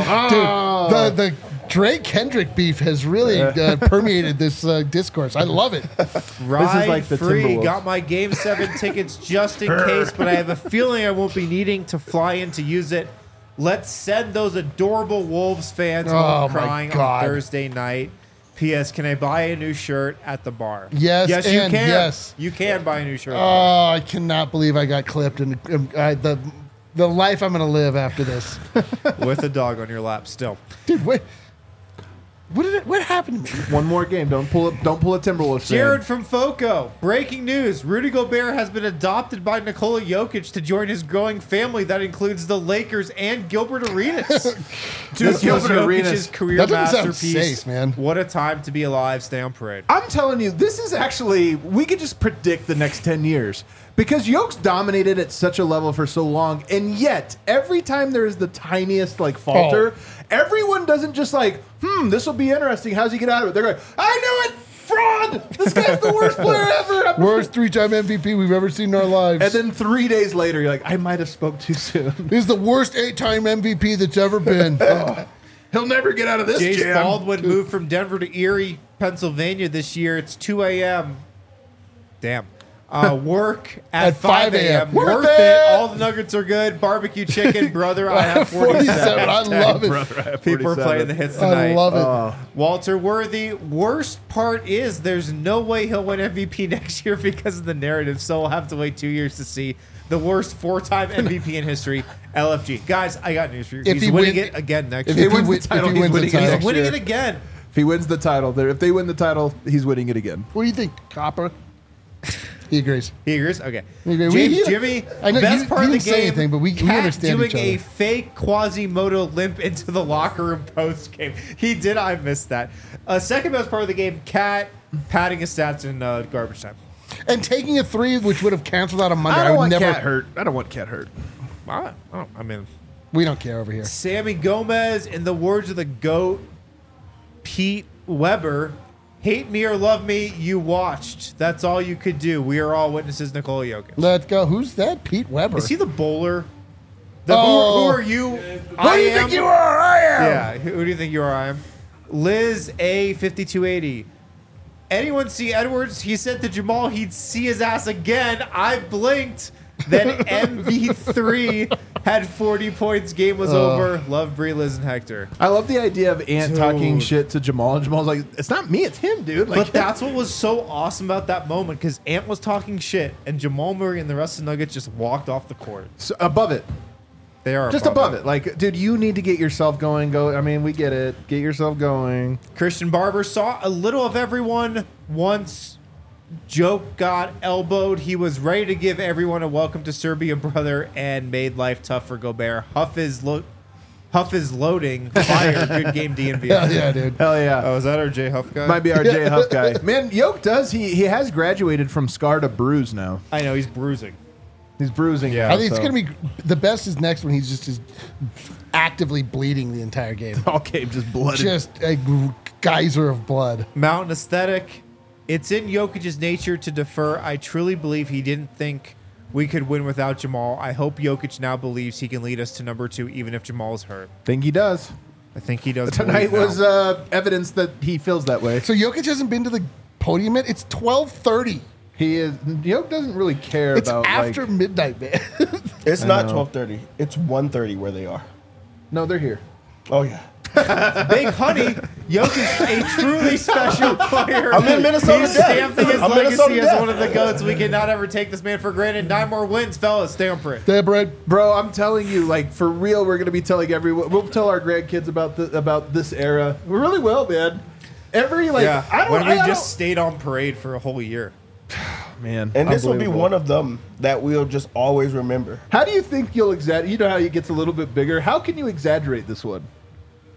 Dude, the, the Drake Kendrick beef has really uh, permeated this uh, discourse. I love it. Ride like the free. Timberwolves. Got my Game seven tickets just in case, but I have a feeling I won't be needing to fly in to use it. Let's send those adorable Wolves fans Oh, home my crying God. on Thursday night. P S. Can I buy a new shirt at the bar? Yes, yes, you and can. yes. You can buy a new shirt. at the Oh, I cannot believe I got clipped and um, I, the the life I'm going to live after this. bar with a dog on your lap. Still, Dude, what, what did it, what happened to me? One more game. Don't pull it. Don't pull a Timberwolves. fan. Jared from Foco. Breaking news: Rudy Gobert has been adopted by Nikola Jokic to join his growing family that includes the Lakers and Gilbert Arenas. Dude, This was Gilbert Jokic's Arenas. career That doesn't sound masterpiece. safe, man. What a time to be alive. Stay on parade. I'm telling you, this is actually, we could just predict the next ten years. Because Yoke's dominated at such a level for so long, and yet, every time there is the tiniest, like, falter, Oh. everyone doesn't just like, hmm, this will be interesting. How's he get out of it? They're going, I knew it! Fraud! This guy's the worst player ever! I'm- Worst three-time M V P we've ever seen in our lives. And then three days later, you're like, I might have spoke too soon. This is the worst eight-time M V P that's ever been. Oh. He'll never get out of this Jace jam. Baldwin moved from Denver to Erie, Pennsylvania this year. It's two a.m. Damn. Uh, work at, At five a.m. Worth Worth it. it. All the nuggets are good. Barbecue chicken, brother. I have forty-seven. forty-seven. I love it. Brother, I have People are forty-seven. playing the hits tonight. I love it. Oh. Walter Worthy. Worst part is there's no way he'll win M V P next year because of the narrative. So we'll have to wait two years to see the worst four-time M V P in history. L F G, guys, I got news for you. If He's he winning win- it again next if year. If he If he wins the win- title, if he he's wins the winning it title. He's next winning year. it again. If he wins the title, there- if they win the title, he's winning it again. What do you think, Copper? He agrees. He agrees? Okay. We agree. James We- Jimmy, I know best you- part you of the didn't say game. anything, but we- we Cat understand doing each other. a fake Quasimodo limp into the locker room post game. He did. I missed that. Uh, second best part of the game, Cat padding his stats in uh, garbage time. And taking a three, which would have canceled out on Monday. I I, don't would want never. Cat hurt. I don't want Cat hurt. I, I, I mean, We don't care over here. Sammy Gomez, in the words of the GOAT, Pete Weber, hate me or love me, you watched. That's all you could do. We are all witnesses, Nikola Jokic. Let's go. Who's that? Pete Weber. Is he the bowler? The, Oh. who, who are you? Who I do you am- think you are? I am. Yeah, who, who do you think you are? I am. Liz A fifty-two eighty. Anyone see Edwards? He said to Jamal he'd see his ass again. I blinked. Then M V three had forty points. Game was over. Love Bree, Liz, and Hector. I love the idea of Ant Dude. talking shit to Jamal, and Jamal's like, "It's not me, it's him, dude." Like, But that's what was so awesome about that moment because Ant was talking shit and Jamal Murray and the rest of the Nuggets just walked off the court. so above it, They are just above it. Like, dude, you need to get yourself going. Go. I mean, we get it. Get yourself going. Christian Barber saw a little of everyone once Joke got elbowed. He was ready to give everyone a welcome to Serbia, brother, and made life tough for Gobert. Huff is lo- Huff is loading. Fire. Good game, D M V. Hell yeah, dude. Hell yeah. Oh, is that our J Huff guy? Might be our J Huff guy. Man, Yoke does. He he has graduated from scar to bruise now. I know he's bruising. He's bruising. Yeah. now, I think it's so- gonna be the best is next when he's just is actively bleeding the entire game. all game just blood. Just a g- geyser of blood. Mountain aesthetic. It's in Jokic's nature to defer. I truly believe he didn't think we could win without Jamal. I hope Jokic now believes he can lead us to number two, even if Jamal's hurt. think he does. I think he does. Tonight believe now. was uh, evidence that he feels that way. So Jokic hasn't been to the podium yet. It's twelve thirty. He is. Yoke doesn't really care It's about. after like, midnight, man. It's I not know. twelve thirty. It's one thirty where they are. no, they're here. Oh, yeah. Big Honey, Jokic's a truly special player. I'm in Minnesota He's Death. stamping his I'm legacy Minnesota as Death. one of the GOATs. We cannot ever take this man for granted. Nine more wins, fellas. Stay on parade. Damn right. Bro, I'm telling you, like for real, we're gonna be telling everyone. We'll tell our grandkids about the about this era. We really will, man. Every like, yeah, I don't. when we I don't- just stayed on parade for a whole year. man, And this will be unbelievable. one of them that we'll just always remember. How do you think you'll exaggerate? You know how it gets a little bit bigger. How can you exaggerate this one?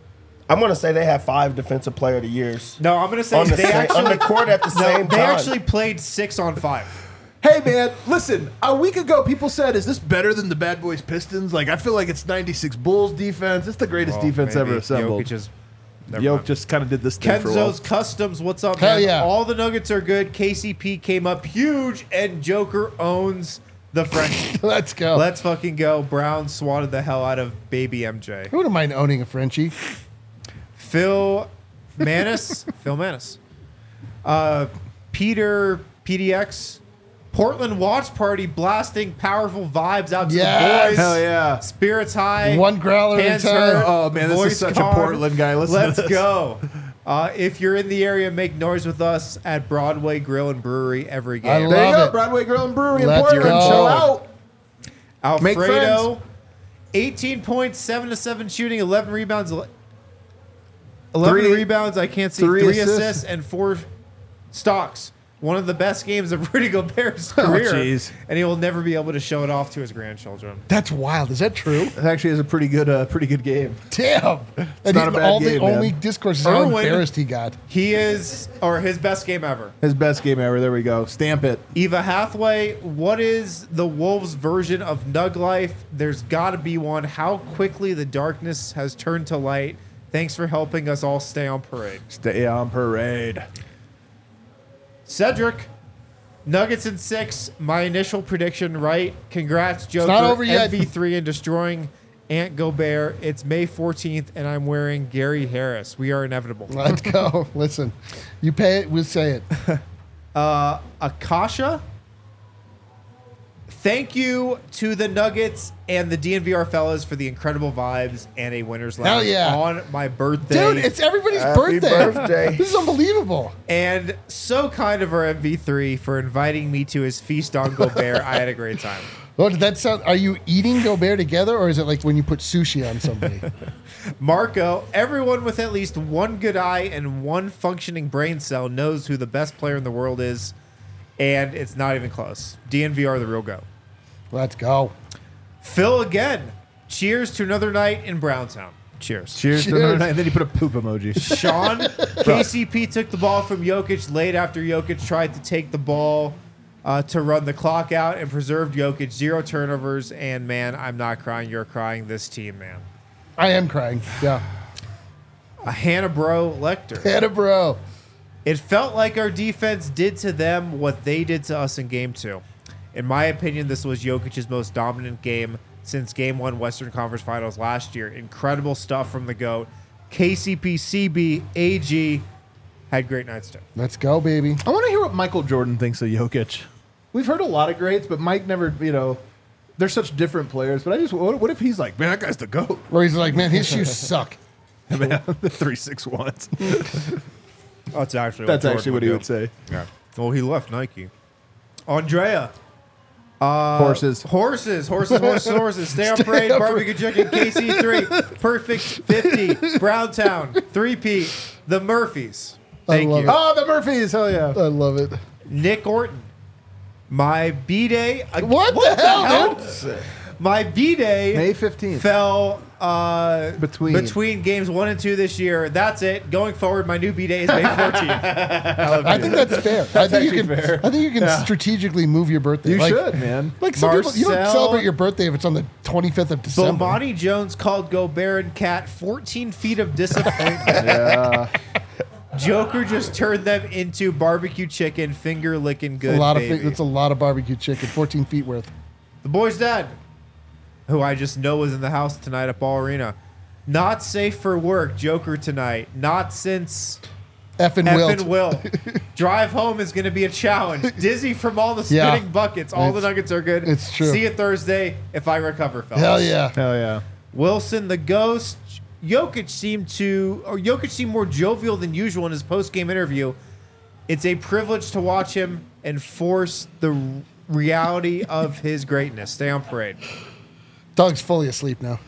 I'm gonna say they have five defensive player of the years No, I'm gonna say on the, they same, actually on the court at the no, same they time. actually played six on five. Hey man, listen. A week ago, people said, "Is this better than the Bad Boys Pistons?" Like, I feel like it's ninety-six Bulls defense. It's the greatest defense ever assembled. Jokic is, never Yoke mind. just kind of did this thing for a while. Kenzo's Customs, what's up, Hell man? yeah. All the Nuggets are good. K C P came up huge, and Joker owns the French. Let's go. Let's fucking go. Brown swatted the hell out of baby M J. I wouldn't mind owning a Frenchie. Phil Manis. Phil Manis. Uh, Peter P D X. Portland Watch Party blasting powerful vibes out to Yes. the boys. Hell yeah. Spirits high. One growler at a hands time. hurt, Oh, man, this is voice such a calm. Portland guy. Listen to Let's this. go. Uh, if you're in the area, make noise with us at Broadway Grill and Brewery every I game. There you Love go. it. Broadway Grill and Brewery in Let's Portland. go. Chill out. Make Alfredo, friends. eighteen points, seven to seven shooting, eleven rebounds, ele- eleven Three- rebounds. I can't see three three, assists. assists. and four stocks. One of the best games of Rudy Gobert's career, jeez. and he will never be able to show it off to his grandchildren. That's wild. Is that true? It actually is a pretty good, uh, pretty good game. Damn. And not he- a bad all game, the man. only discourse is how Irwin- embarrassed he got. He is, or his best game ever. His best game ever. There we go. Stamp it. Eva Hathaway, what is the Wolves' version of Nug Life? There's got to be one. How quickly the darkness has turned to light. Thanks for helping us all stay on parade. Stay on parade. Cedric, Nuggets in six. My initial prediction right. Congrats, Joker. not over yet. M V three and destroying Ant Gobert. It's May fourteenth, and I'm wearing Gary Harris. We are inevitable. Let's go. Listen, you pay it, we'll say it. Uh, Akasha, thank you to the Nuggets and the D N V R fellas for the incredible vibes and a winner's lounge yeah. on my birthday. Dude, it's everybody's Happy birthday. birthday. This is unbelievable. and so kind of our M V three for inviting me to his feast on Gobert. I had a great time. Oh, did that sound? Are you eating Gobert together, or is it like when you put sushi on somebody? Marco, everyone with at least one good eye and one functioning brain cell knows who the best player in the world is, and it's not even close. D N V R, the real go. Let's go. Phil again. Cheers to another night in Browntown. Cheers. Cheers. to Cheers. another night. And then you put a poop emoji. Sean, K C P took the ball from Jokic late after Jokic tried to take the ball uh, to run the clock out and preserved Jokic. Zero turnovers, and man, I'm not crying. You're crying. This team, man. I am crying. Yeah. A Hannah Bro Lecter. Hannah, bro. It felt like our defense did to them what they did to us in game two. In my opinion, this was Jokic's most dominant game since game one Western Conference Finals last year. Incredible stuff from the GOAT. K C P, C B, A G had great nights too. Let's go, baby. I want to hear what Michael Jordan thinks of Jokic. We've heard a lot of greats, but Mike never, you know, they're such different players. But I just, what, what if he's like, man, that guy's the GOAT? Or he's like, man, his shoes suck. Man, the three six ones. That's actually That's what actually what he would say. Yeah. Well, he left Nike. Andrea. Uh, Horses. Horses. Horses, horses, horses. Stay on parade. on Barbecue chicken. K C three. Perfect fifty. Browntown. three P. The Murphys. Thank love you. it. Oh, the Murphys. Hell yeah. I love it. Nick Orton. My B-Day. uh, What, the, hell, dude? My B-Day May fifteenth. fell uh, Between. between games one and two this year. That's it. Going forward, my new B-Day is May fourteenth. I think that's fair. I think you actually can. fair. I think you can strategically move your birthday. You like, should, man. Like some people, you don't Marcel- celebrate your birthday if it's on the twenty-fifth of December. Bomani Jones called Gobert and Cat fourteen feet of disappointment. Yeah. Joker just turned them into barbecue chicken, finger licking good. a lot baby. of fi- that's a lot of barbecue chicken, fourteen feet worth. The boy's dad, who I just know was in the house tonight at Ball Arena. Not safe for work, Joker tonight. Not since Effing effing Wilt. Wilt. Drive home is going to be a challenge. Dizzy from all the Yeah. spinning buckets. All the It's- Nuggets are good. it's true. See you Thursday if I recover, fellas. Hell yeah. Hell yeah. Wilson, the ghost. Jokic seemed to, or Jokic seemed more jovial than usual in his post-game interview. It's a privilege to watch him enforce the reality of his greatness. Stay on parade. Doug's fully asleep now.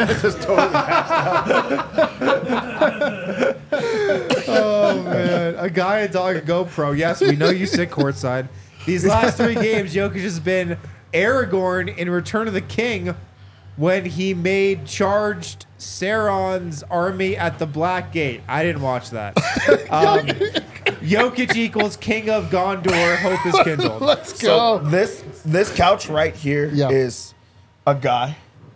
Oh man, a guy, a dog, a GoPro. Yes, we know you sit courtside. These last three games, Jokic has been Aragorn in Return of the King when he made charged Sauron's army at the Black Gate. I didn't watch that. Um, Jokic equals King of Gondor. Hope is kindled. Let's So go. this this couch right here is Yeah. a guy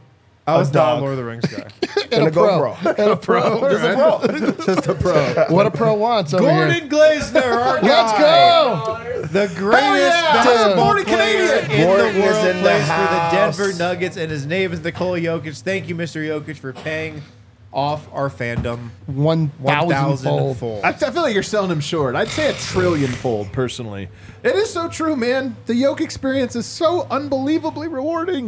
I was A not a dog. Lord of the Rings guy. and, a pro. GoPro. And a pro. Just a pro. Just a pro. What a pro wants over Gordon here. Glazner, our Let's guy. go. The greatest yeah! basketball Born a player Canadian. in Gordon the is world in the plays for the house. Denver Nuggets, and his name is Nikola Jokic. Thank you, Mister Jokic, for paying off our fandom One one thousand thousand fold. fold. I, I feel like you're selling him short. I'd say a trillion fold, personally. It is so true, man. The Yoke experience is so unbelievably rewarding.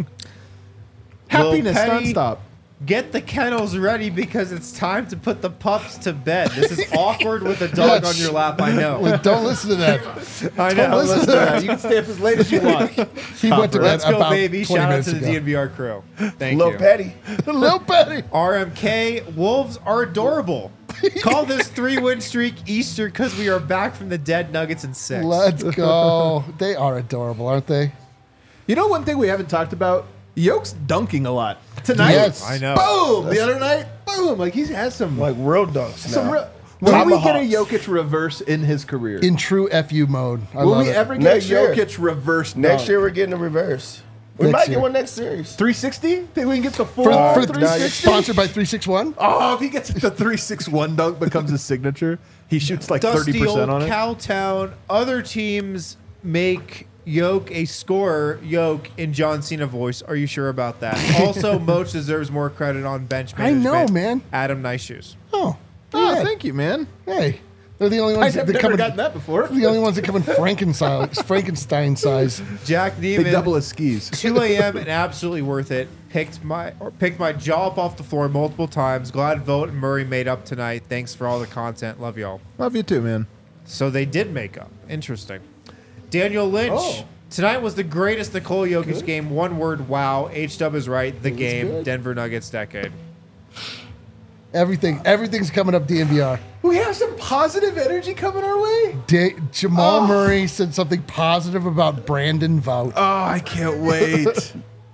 Happiness Petty- nonstop. Get the kennels ready because it's time to put the pups to bed. This is awkward with a dog Yeah, on your lap, I know. Don't listen to that. I know. listen to that. You can stay up as late as you want. He went to bed Let's go, about baby. twenty Shout out minutes to the ago. D N V R crew. Thank Lil you. Petty. Lil Petty. R M K, Wolves are adorable. Call this three-win streak Easter because we are back from the dead Nuggets in six. Let's go. They are adorable, aren't they? You know one thing we haven't talked about? Yoke's dunking a lot. Tonight, Yes. I know. boom. The other night, boom. Like he has some, Like real dunks some now. real. Will we get a Tomahawks. Jokic reverse in his career? In true F U mode. I Will love we it. ever get Next a year. Jokic reverse Next dunk? year we're getting a reverse. We Next might year. get one next series. three sixty? Think we can get the full For, for three sixty? sponsored by three six one? Oh, if he gets the three six one dunk becomes his signature, he shoots like Dusty thirty percent old on it. Cowtown. Other teams make Yoke a scorer. Yoke in John Cena voice. Are you sure about that? Also, Moach deserves more credit on bench I know, management. man. Adam Nice Shoes. Oh. Oh, yeah. thank you, man. Hey. They're the only I've ones never, that come in, gotten that before. the only ones that come in Frankenstein Frankenstein size. Jack They Neiman. double his skis. two a.m. and absolutely worth it. Picked my or picked my jaw up off the floor multiple times. Glad Vote and Murray made up tonight. Thanks for all the content. Love y'all. Love you too, man. So they did make up. Interesting. Daniel Lynch. Oh. Tonight was the greatest Nikola Jokic game. One word, wow. H-Dub is right. The game. good. Denver Nuggets decade. Everything, everything's coming up D N V R. We have some positive energy coming our way. Da- Jamal Oh. Murray said something positive about Brandon Vout. Oh, I can't wait.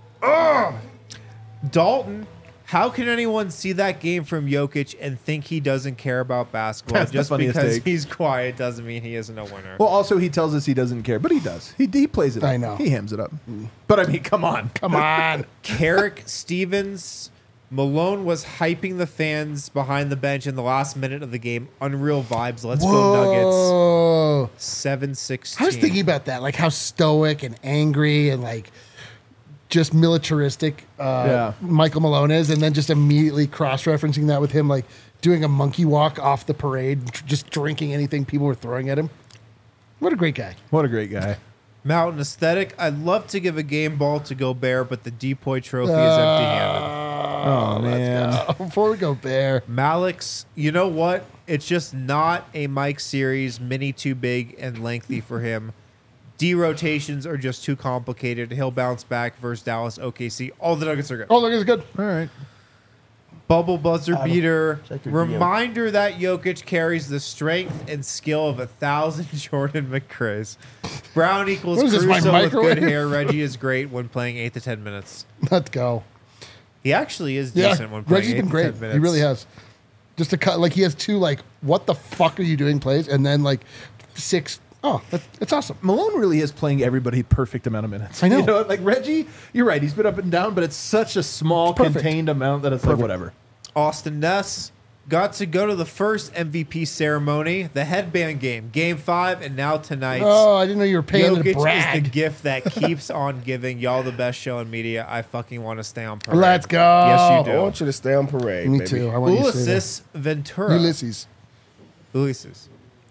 Dalton. How can anyone see that game from Jokic and think he doesn't care about basketball? That's the Just funniest because take. he's quiet doesn't mean he isn't a winner. Well, also he tells us he doesn't care, but he does. He he plays it. I up. know. He hams it up. But I mean, come on. Come on. Carrick Stevens. Malone was hyping the fans behind the bench in the last minute of the game. Unreal vibes. Let's go Nuggets. Whoa. seven sixteen. I was thinking about that, like how stoic and angry and like just militaristic uh, Yeah. Michael Malone is, and then just immediately cross-referencing that with him like doing a monkey walk off the parade, tr- just drinking anything people were throwing at him. What a great guy. What a great guy. Mountain Aesthetic. I'd love to give a game ball to Gobert, but the Depoy trophy is empty-handed. Oh, man. Before we go Bear, Malik's, you know what? It's just not a Mike series, mini too big and lengthy for him. D rotations are just too complicated. He'll bounce back versus Dallas, O K C. All the Nuggets are good. oh look, it's good. All right. Bubble buzzer beater. check your D M. Reminder that Jokic carries the strength and skill of a thousand Jordan McCrae's. Brown equals What is this, Caruso my with good microwave? hair. Reggie is great when playing eight to ten minutes. Let's go. He actually is Yeah, decent when playing Reggie's eight been to great. ten minutes. He really has. Just to cut, like he has two, like what the fuck are you doing plays, and then like six. Oh, that, that's awesome. Malone really is playing everybody perfect amount of minutes. I know. You know, like Reggie, you're right. He's been up and down, but it's such a small, Perfect. contained amount that it's like whatever. Austin Ness got to go to the first M V P ceremony, the headband game, game five, and now tonight. Oh, I didn't know you were paying to Jokic is the brag. gift that keeps on giving. Y'all the best show in media. I fucking want to stay on parade. Let's go. Yes, you I do. want you to stay on parade, Me baby. too. I want you to say Ulysses Ventura. that. Ulysses. Ulysses.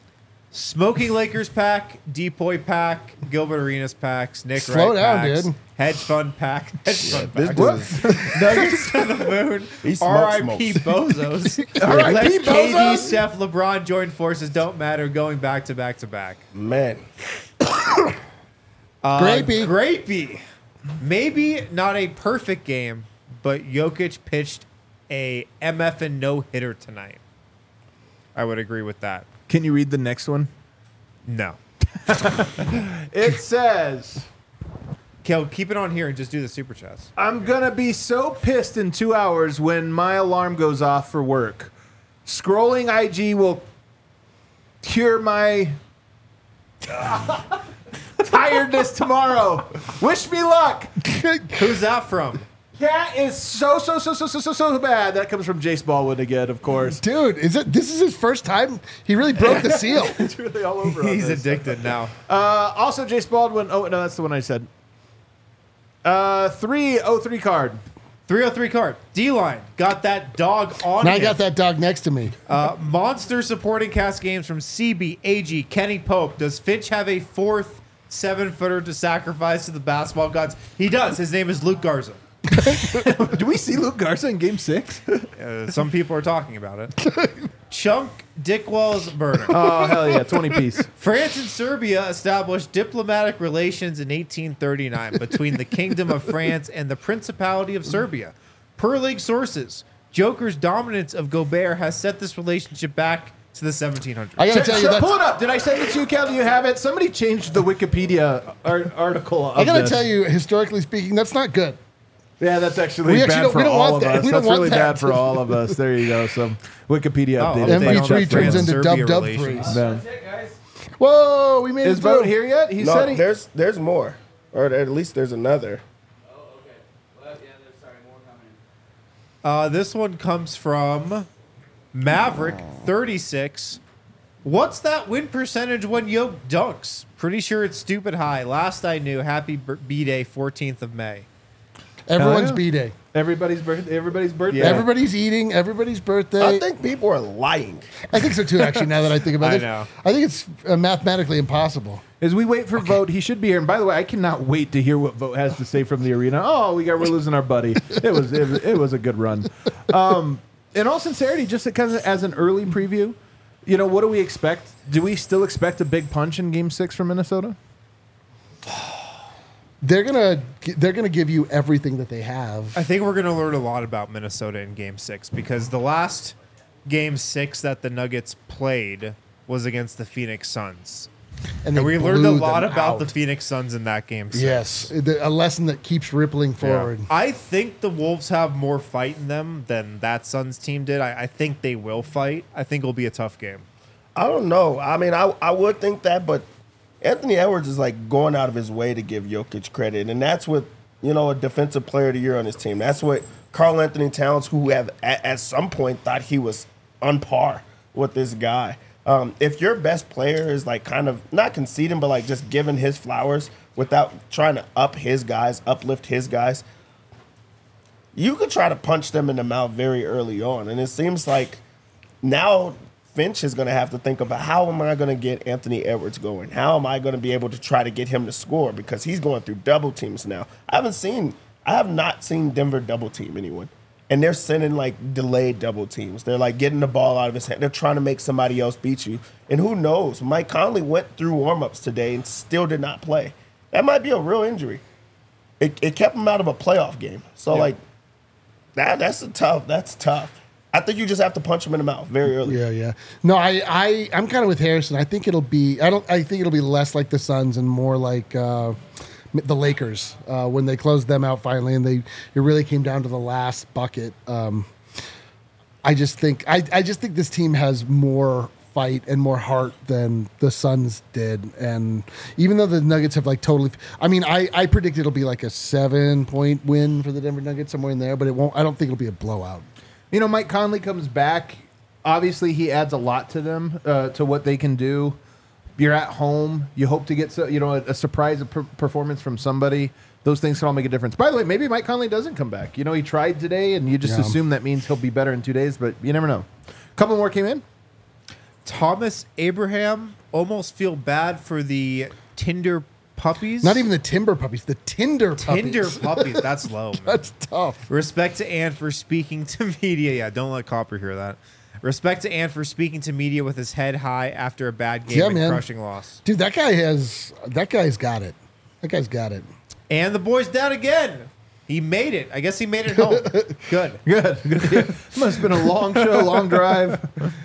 Smoking Lakers pack, Depoy pack, Gilbert Arenas packs, Nick Slow Wright down, packs, dude. hedge fund pack, hedge fund This pack. dude is Nuggets to the moon. He smokes R I P smokes. Bozos. R I P Let K D, Bozos? Steph, LeBron join forces. Don't matter. Going back to back to back. man. Uh, Grapey. Grapey. Maybe not a perfect game, but Jokic pitched a M F and no hitter tonight. I would agree with that. Can you read the next one? No. It says, Kel, keep it on here and just do the super chats. I'm gonna be so pissed in two hours when my alarm goes off for work. Scrolling I G will cure my tiredness tomorrow. Wish me luck. Who's that from? That is so so so so so so so bad. That comes from Jace Baldwin again, of course. Dude, is it? This is his first time. He really broke the seal. It's really all over. on He's this. addicted now. Uh, also, Jace Baldwin. Oh no, that's the one I said. Uh, three oh three card. three oh three card. D-line. Got that dog on Now I him. got that dog next to me. Uh, monster supporting cast games from C B, A G, Kenny Pope. Does Finch have a fourth seven-footer to sacrifice to the basketball gods? He does. His name is Luke Garza. Do we see Luke Garza in Game Six? Uh, some people are talking about it. Chunk Dickwell's burner. Oh hell yeah, twenty piece. France and Serbia established diplomatic relations in eighteen thirty-nine between the Kingdom of France and the Principality of Serbia. Per league sources, Joker's dominance of Gobert has set this relationship back to the seventeen hundreds. I gotta Sh- tell sh- you, that's, pull it up. Did I send it to you, Cal? Do you have it? Somebody changed the Wikipedia ar- article. Of I gotta this. tell you, historically speaking, that's not good. Yeah, that's actually We actually bad don't- for we don't all want of that. us. We don't That's want really that. bad for all of us. There you go. Some Wikipedia Oh, updated. update M V on three that turns France into Serbia dub dub relations. threes. Yeah. That's it, guys. Whoa, we made Is it Vote through. here yet? He No, said he. there's there's more, or at least there's another. Oh, okay. Well, yeah, there's sorry, more coming in. Uh, this one comes from Maverick thirty-six. What's that win percentage when Yoke dunks? Pretty sure it's stupid high. Last I knew, happy B-Day, fourteenth of May. Everyone's yeah. B-Day. Everybody's birthday. Everybody's birthday. Yeah. Everybody's eating. Everybody's birthday. I think people are lying. I think so too. Actually, now that I think about I it, know. I think it's uh, mathematically impossible. As we wait for Vote, he should be here. And by the way, I cannot wait to hear what Vote has to say from the arena. Oh, we got we're losing our buddy. It was it, was- it was a good run. Um, in all sincerity, just kind of as an early preview, you know, what do we expect? Do we still expect a big punch in Game Six from Minnesota? They're gonna they're gonna give you everything that they have. I think we're going to learn a lot about Minnesota in Game Six because the last Game Six that the Nuggets played was against the Phoenix Suns, And, and they we learned a blew lot them about out. the Phoenix Suns in that Game Six. Yes, the, a lesson that keeps rippling forward. I think the Wolves have more fight in them than that Suns team did. I, I think they will fight. I think it'll be a tough game. I don't know. I mean, I I would think that, but Anthony Edwards is like going out of his way to give Jokic credit, and that's what, you know, a defensive player of the year on his team. That's what Karl Anthony Towns, who have at, at some point thought he was on par with this guy. Um, if your best player is like kind of not conceding, but like just giving his flowers without trying to up his guys, uplift his guys, you could try to punch them in the mouth very early on. And it seems like now Finch is going to have to think about, how am I going to get Anthony Edwards going? How am I going to be able to try to get him to score? Because he's going through double teams now. I haven't seen, I have not seen Denver double team anyone. And they're sending like delayed double teams. They're like getting the ball out of his hand. They're trying to make somebody else beat you. And who knows? Mike Conley went through warmups today and still did not play. That might be a real injury. It, it kept him out of a playoff game. So Yeah. like that that's a tough. That's tough. I think you just have to punch him in the mouth very early. Yeah, yeah. No, I, I, I'm kind of with Harrison. I think it'll be. I don't. I think it'll be less like the Suns and more like uh, the Lakers uh, when they closed them out finally, and they it really came down to the last bucket. Um, I just think. I, I just think this team has more fight and more heart than the Suns did, and even though the Nuggets have like totally. I mean, I, I predict it'll be like a seven point win for the Denver Nuggets somewhere in there, but it won't. I don't think it'll be a blowout. You know, Mike Conley comes back. Obviously, he adds a lot to them, uh, to what they can do. You're at home. You hope to get, so, you know, a, a surprise per- performance from somebody. Those things can all make a difference. By the way, maybe Mike Conley doesn't come back. You know, he tried today, and you just Yeah. assume that means he'll be better in two days, but you never know. A couple more came in. Thomas Abraham, almost feel bad for the Tinder puppies. Not even the Timber puppies, the Tinder puppies. Tinder puppies. That's low. Man. That's tough. Respect to Ann for speaking to media. Yeah, don't let Copper hear that. Respect to Ann for speaking to media with his head high after a bad game Yeah, and man. crushing loss. Dude, that guy has that guy's got it. That guy's got it. And the boy's down again. He made it. I guess he made it home. Good. Good. Good. Must have been a long show, long drive.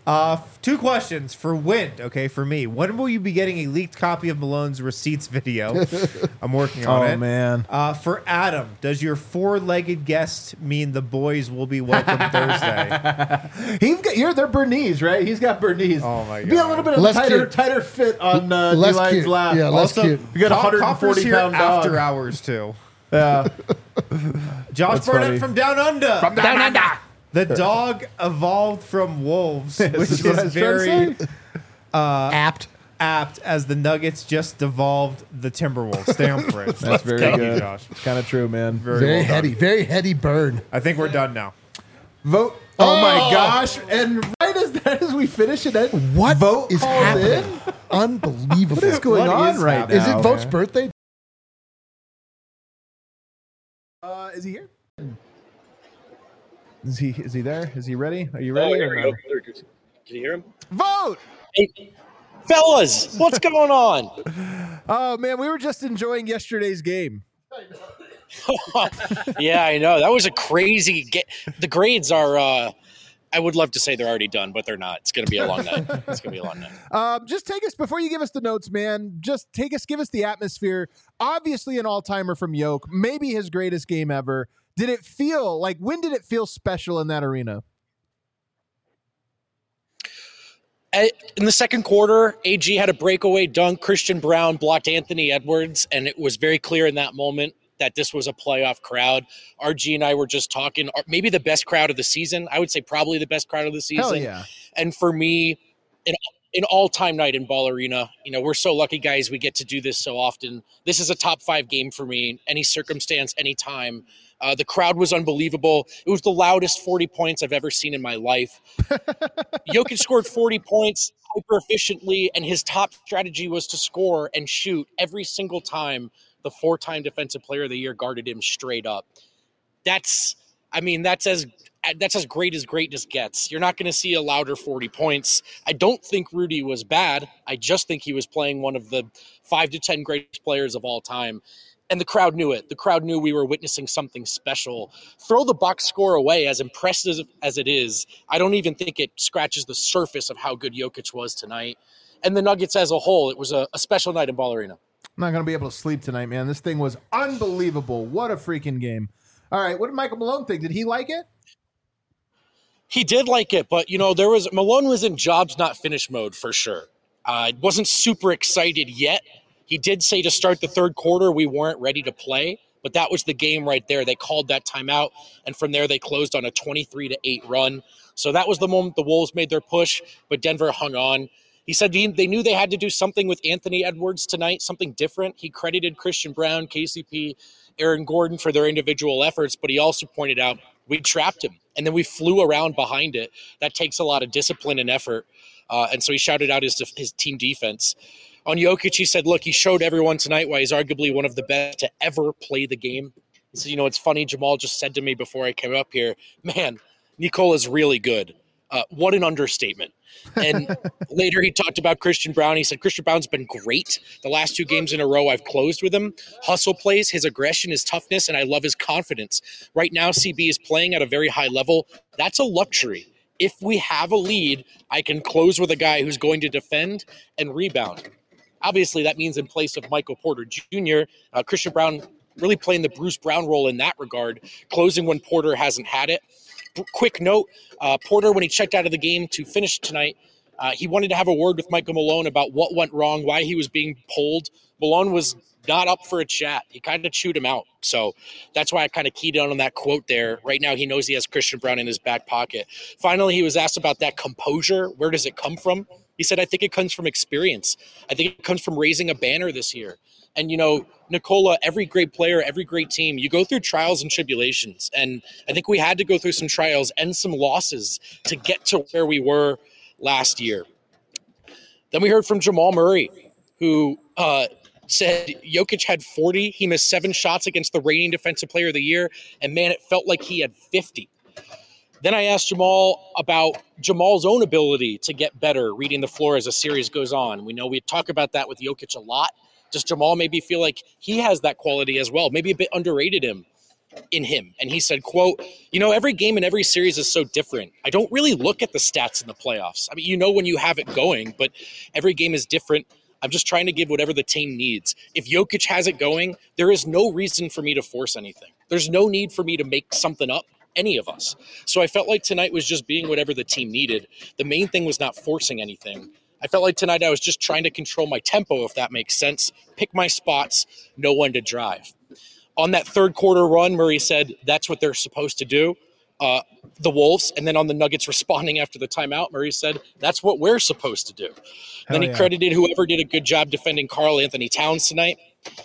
Uh, f- two questions for Wind. Okay, for me, when will you be getting a leaked copy of Malone's receipts video? I'm working on Oh, it. man. Uh, for Adam, does your four-legged guest mean the boys will be welcome Thursday? He's got, you're, they're Bernese, right? He's got Bernese. Oh, my Be a God. little bit of Less tighter, cute. tighter fit on uh, Less D-Line's cute. lap. Yeah, less Also, cute. We got a Cop- one hundred Copper's forty here pound dog. after hours too. Yeah. Josh That's Burnett funny. from Down Under. From Down under. The dog evolved from wolves, This which is what I is was trying to very say. Apt. apt as the Nuggets just devolved the Timberwolves. Stay on for it. That's very Thank good. you, Josh. It's kind of true, man. Very, Very well done. heady. Very heady burn. I think we're done now. Vote. Oh, Oh! my gosh! And right as that as we finish it, that What vote is calls happening? in. Unbelievable. What is going What on is right happening? now? Is it Vote's man? birthday? Uh, is he here? Is he is he there? Is he ready? Are you Oh, ready? here or we no? go. There it goes. Can you hear him? Vote. Hey, fellas, what's going on? Oh man, we were just enjoying yesterday's game. Yeah, I know. That was a crazy get. The grades are, uh, I would love to say they're already done, but they're not. It's going to be a long night. It's going to be a long night. Um, just take us before you give us the notes, man. Just take us, give us the atmosphere. Obviously, an all-timer from Yoke, maybe his greatest game ever. Did it feel like? When did it feel special in that arena? At- In the second quarter, A G had a breakaway dunk. Christian Brown blocked Anthony Edwards, and it was very clear in that moment that this was a playoff crowd. R G and I were just talking, or maybe the best crowd of the season. I would say probably the best crowd of the season. Hell yeah! And for me, an, an all-time night in Ball Arena. You know, we're so lucky, guys. We get to do this so often. This is a top five game for me. Any circumstance, any time. Uh, the crowd was unbelievable. It was the loudest forty points I've ever seen in my life. Jokic scored forty points hyper efficiently, and his top strategy was to score and shoot every single time the four-time Defensive Player of the Year guarded him straight up. That's, I mean, that's as that's as great as greatness gets. You're not going to see a louder forty points. I don't think Rudy was bad. I just think he was playing one of the five to ten greatest players of all time. And the crowd knew it. The crowd knew we were witnessing something special. Throw the box score away, as impressive as it is. I don't even think it scratches the surface of how good Jokic was tonight. And the Nuggets as a whole, it was a, a special night in Ball Arena. I'm not gonna be able to sleep tonight, man. This thing was unbelievable. What a freaking game! All right, what did Michael Malone think? Did he like it? He did like it, but, you know, there was Malone was in jobs not finished mode for sure. I uh, wasn't super excited yet. He did say to start the third quarter we weren't ready to play, but that was the game right there. They called that timeout, and from there they closed on a twenty-three to eight run. So that was the moment the Wolves made their push, but Denver hung on. He said he, they knew they had to do something with Anthony Edwards tonight, something different. He credited Christian Brown, K C P, Aaron Gordon for their individual efforts, but he also pointed out we trapped him, and then we flew around behind it. That takes a lot of discipline and effort, uh, and so he shouted out his, his team defense. On Jokic, he said, look, he showed everyone tonight why he's arguably one of the best to ever play the game. He said, you know, it's funny, Jamal just said to me before I came up here, man, Nikola's really good. Uh, what an understatement. And later he talked about Christian Brown. He said, Christian Brown's been great. The last two games in a row I've closed with him. Hustle plays, his aggression, his toughness, and I love his confidence. Right now, C B is playing at a very high level. That's a luxury. If we have a lead, I can close with a guy who's going to defend and rebound. Obviously, that means in place of Michael Porter Junior, uh, Christian Brown really playing the Bruce Brown role in that regard, closing when Porter hasn't had it. B- quick note, uh, Porter, when he checked out of the game to finish tonight, uh, he wanted to have a word with Michael Malone about what went wrong, why he was being pulled. Malone was not up for a chat. He kind of chewed him out. So that's why I kind of keyed in on that quote there. Right now, he knows he has Christian Brown in his back pocket. Finally, he was asked about that composure. Where does it come from? He said, I think it comes from experience. I think it comes from raising a banner this year. And, you know, Nikola, every great player, every great team, you go through trials and tribulations. And I think we had to go through some trials and some losses to get to where we were last year. Then we heard from Jamal Murray, who uh, said Jokic had forty. He missed seven shots against the reigning Defensive Player of the Year. And, man, it felt like he had fifty. Then I asked Jamal about Jamal's own ability to get better reading the floor as the series goes on. We know we talk about that with Jokic a lot. Does Jamal maybe feel like he has that quality as well? Maybe a bit underrated him. in him. And he said, quote, you know, every game and every series is so different. I don't really look at the stats in the playoffs. I mean, you know when you have it going, but every game is different. I'm just trying to give whatever the team needs. If Jokic has it going, there is no reason for me to force anything. There's no need for me to make something up, any of us. So I felt like tonight was just being whatever the team needed. The main thing was not forcing anything. I felt like tonight I was just trying to control my tempo, if that makes sense, pick my spots, know when to drive. On that third quarter run, Murray said that's what they're supposed to do, uh, the Wolves. And then on the Nuggets responding after the timeout, Murray said that's what we're supposed to do. And then he yeah. credited whoever did a good job defending Karl Anthony Towns tonight.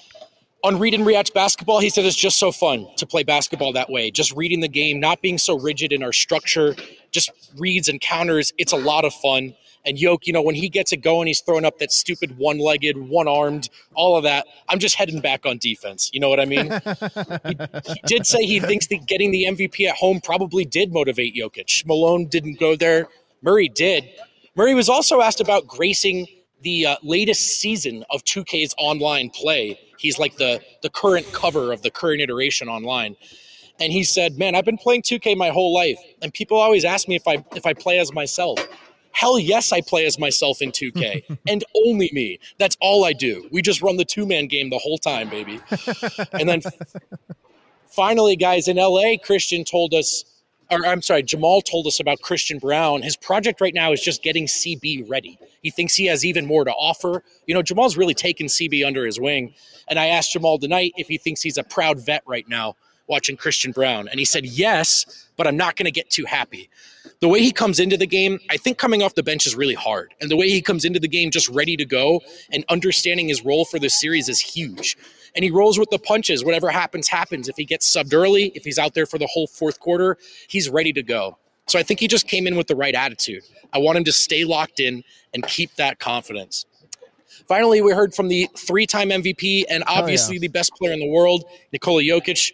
On Read and React basketball, he said it's just so fun to play basketball that way. Just reading the game, not being so rigid in our structure, just reads and counters. It's a lot of fun. And Yoke, you know, when he gets it going, he's throwing up that stupid one-legged, one-armed, all of that. I'm just heading back on defense. You know what I mean? he, he did say he thinks that getting the M V P at home probably did motivate Jokic. Malone didn't go there. Murray did. Murray was also asked about gracing the uh, latest season of two K's online play. He's like the, the current cover of the current iteration online. And he said, man, I've been playing two K my whole life. And people always ask me if I if I play as myself. Hell yes, I play as myself in two K. And only me. That's all I do. We just run the two-man game the whole time, baby. And then finally, guys, in L A, Christian told us, or I'm sorry, Jamal told us about Christian Brown. His project right now is just getting C B ready. He thinks he has even more to offer. You know, Jamal's really taken C B under his wing. And I asked Jamal tonight if he thinks he's a proud vet right now watching Christian Brown. And he said, yes, but I'm not going to get too happy. The way he comes into the game, I think coming off the bench is really hard. And the way he comes into the game just ready to go and understanding his role for this series is huge. And he rolls with the punches. Whatever happens, happens. If he gets subbed early, if he's out there for the whole fourth quarter, he's ready to go. So I think he just came in with the right attitude. I want him to stay locked in and keep that confidence. Finally, we heard from the three-time M V P and obviously yeah. the best player in the world, Nikola Jokic,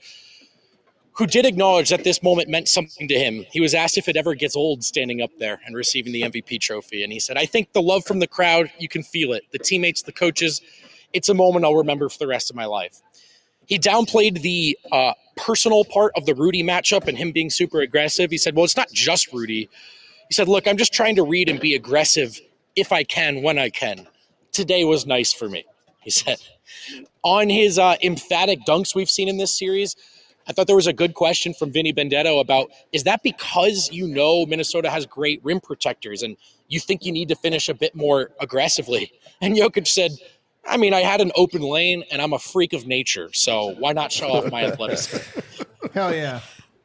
who did acknowledge that this moment meant something to him. He was asked if it ever gets old standing up there and receiving the M V P trophy. And he said, I think the love from the crowd, you can feel it. The teammates, the coaches, it's a moment I'll remember for the rest of my life. He downplayed the uh, personal part of the Rudy matchup and him being super aggressive. He said, well, it's not just Rudy. He said, look, I'm just trying to read and be aggressive if I can, when I can. Today was nice for me, he said. On his uh, emphatic dunks we've seen in this series, I thought there was a good question from Vinny Benedetto about, is that because you know Minnesota has great rim protectors and you think you need to finish a bit more aggressively? And Jokic said, I mean, I had an open lane and I'm a freak of nature, so why not show off my athleticism? Hell yeah.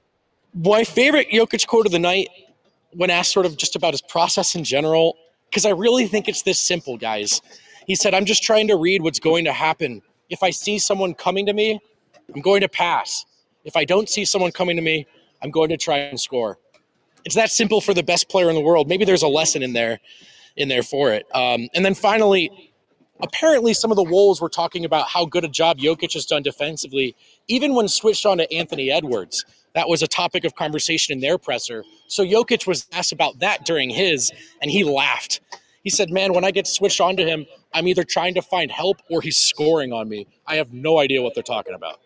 My favorite Jokic quote of the night, when asked sort of just about his process in general, because I really think it's this simple, guys. He said, I'm just trying to read what's going to happen. If I see someone coming to me, I'm going to pass. If I don't see someone coming to me, I'm going to try and score. It's that simple for the best player in the world. Maybe there's a lesson in there, in there for it. Um, and then finally, apparently some of the Wolves were talking about how good a job Jokic has done defensively, even when switched on to Anthony Edwards. That was a topic of conversation in their presser. So Jokic was asked about that during his, and he laughed. He said, man, when I get switched on to him, I'm either trying to find help or he's scoring on me. I have no idea what they're talking about.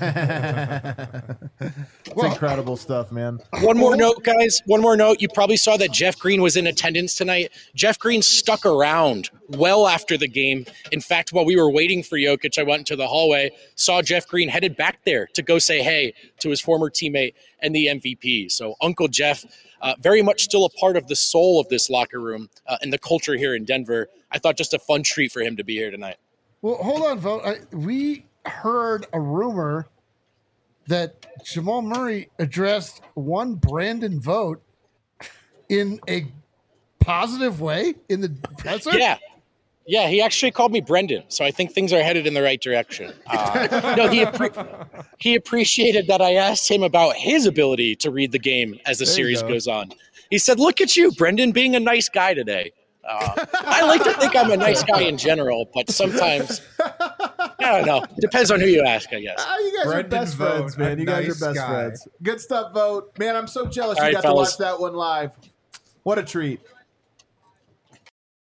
It's well, incredible stuff, man. One more note, guys. One more note. You probably saw that Jeff Green was in attendance tonight. Jeff Green stuck around well after the game. In fact, while we were waiting for Jokic, I went into the hallway, saw Jeff Green headed back there to go say hey to his former teammate and the M V P. So Uncle Jeff, uh, very much still a part of the soul of this locker room uh, and the culture here in Denver. I thought just a fun treat for him to be here tonight. Well, hold on, Vogt. I, we heard a rumor that Jamal Murray addressed one Brandon Vogt in a positive way in the presser. Yeah. Yeah, he actually called me Brendan, so I think things are headed in the right direction. Uh, no, he appre- he appreciated that I asked him about his ability to read the game as the there series go. goes on. He said, look at you, Brendan, being a nice guy today. Uh, I like to think I'm a nice guy in general, but sometimes, I don't know. Depends on who you ask, I guess. Uh, you guys Brendan are best Vogt, friends, man. You guys nice are best guy. friends. Good stuff, Vogt. Man, I'm so jealous All you right, got fellas. to watch that one live. What a treat.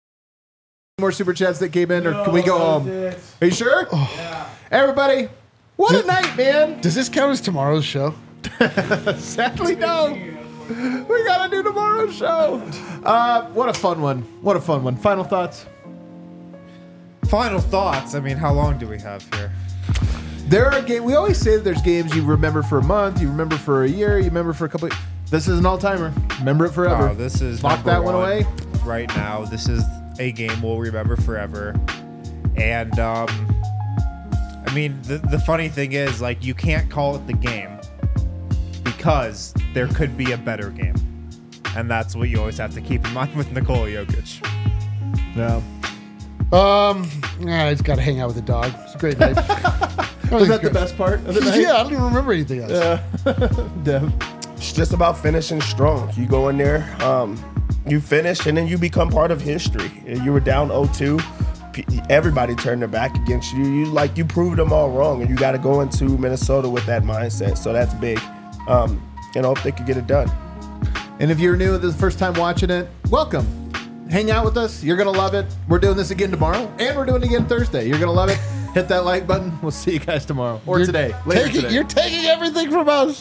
More super chats that came in, or can we go home? Are you sure? Yeah. Everybody, What a night, man. Does this count as tomorrow's show? Sadly, no. We gotta do tomorrow's show. Uh, what a fun one. What a fun one. Final thoughts? Final thoughts. I mean, how long do we have here? There are games. We always say that there's games you remember for a month, you remember for a year, you remember for a couple. This is an all-timer. Remember it forever. Oh, this is Lock number that one one away. right now. This is a game we'll remember forever. And um, I mean, the the funny thing is, like, you can't call it the game because there could be a better game, and that's what you always have to keep in mind with Nikola Jokic. Yeah. Um, yeah, I just got to hang out with the dog. It's a great night. Was that the best part of the night? Yeah, I don't even remember anything else. Yeah. Dev. It's just about finishing strong. You go in there, um, you finish, and then you become part of history. You were down oh two. Everybody turned their back against you. You like you proved them all wrong, and you got to go into Minnesota with that mindset. So that's big. Um, and I hope they could get it done. And if you're new, this is the first time watching it, welcome. Hang out with us. You're going to love it. We're doing this again tomorrow, and we're doing it again Thursday. You're going to love it. Hit that like button. We'll see you guys tomorrow or You're today. Later taking, today. You're taking everything from us.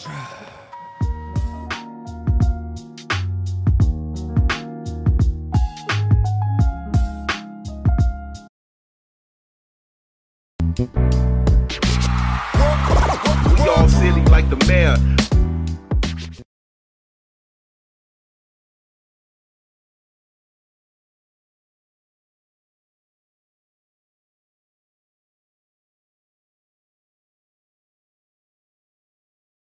We all silly like the mayor.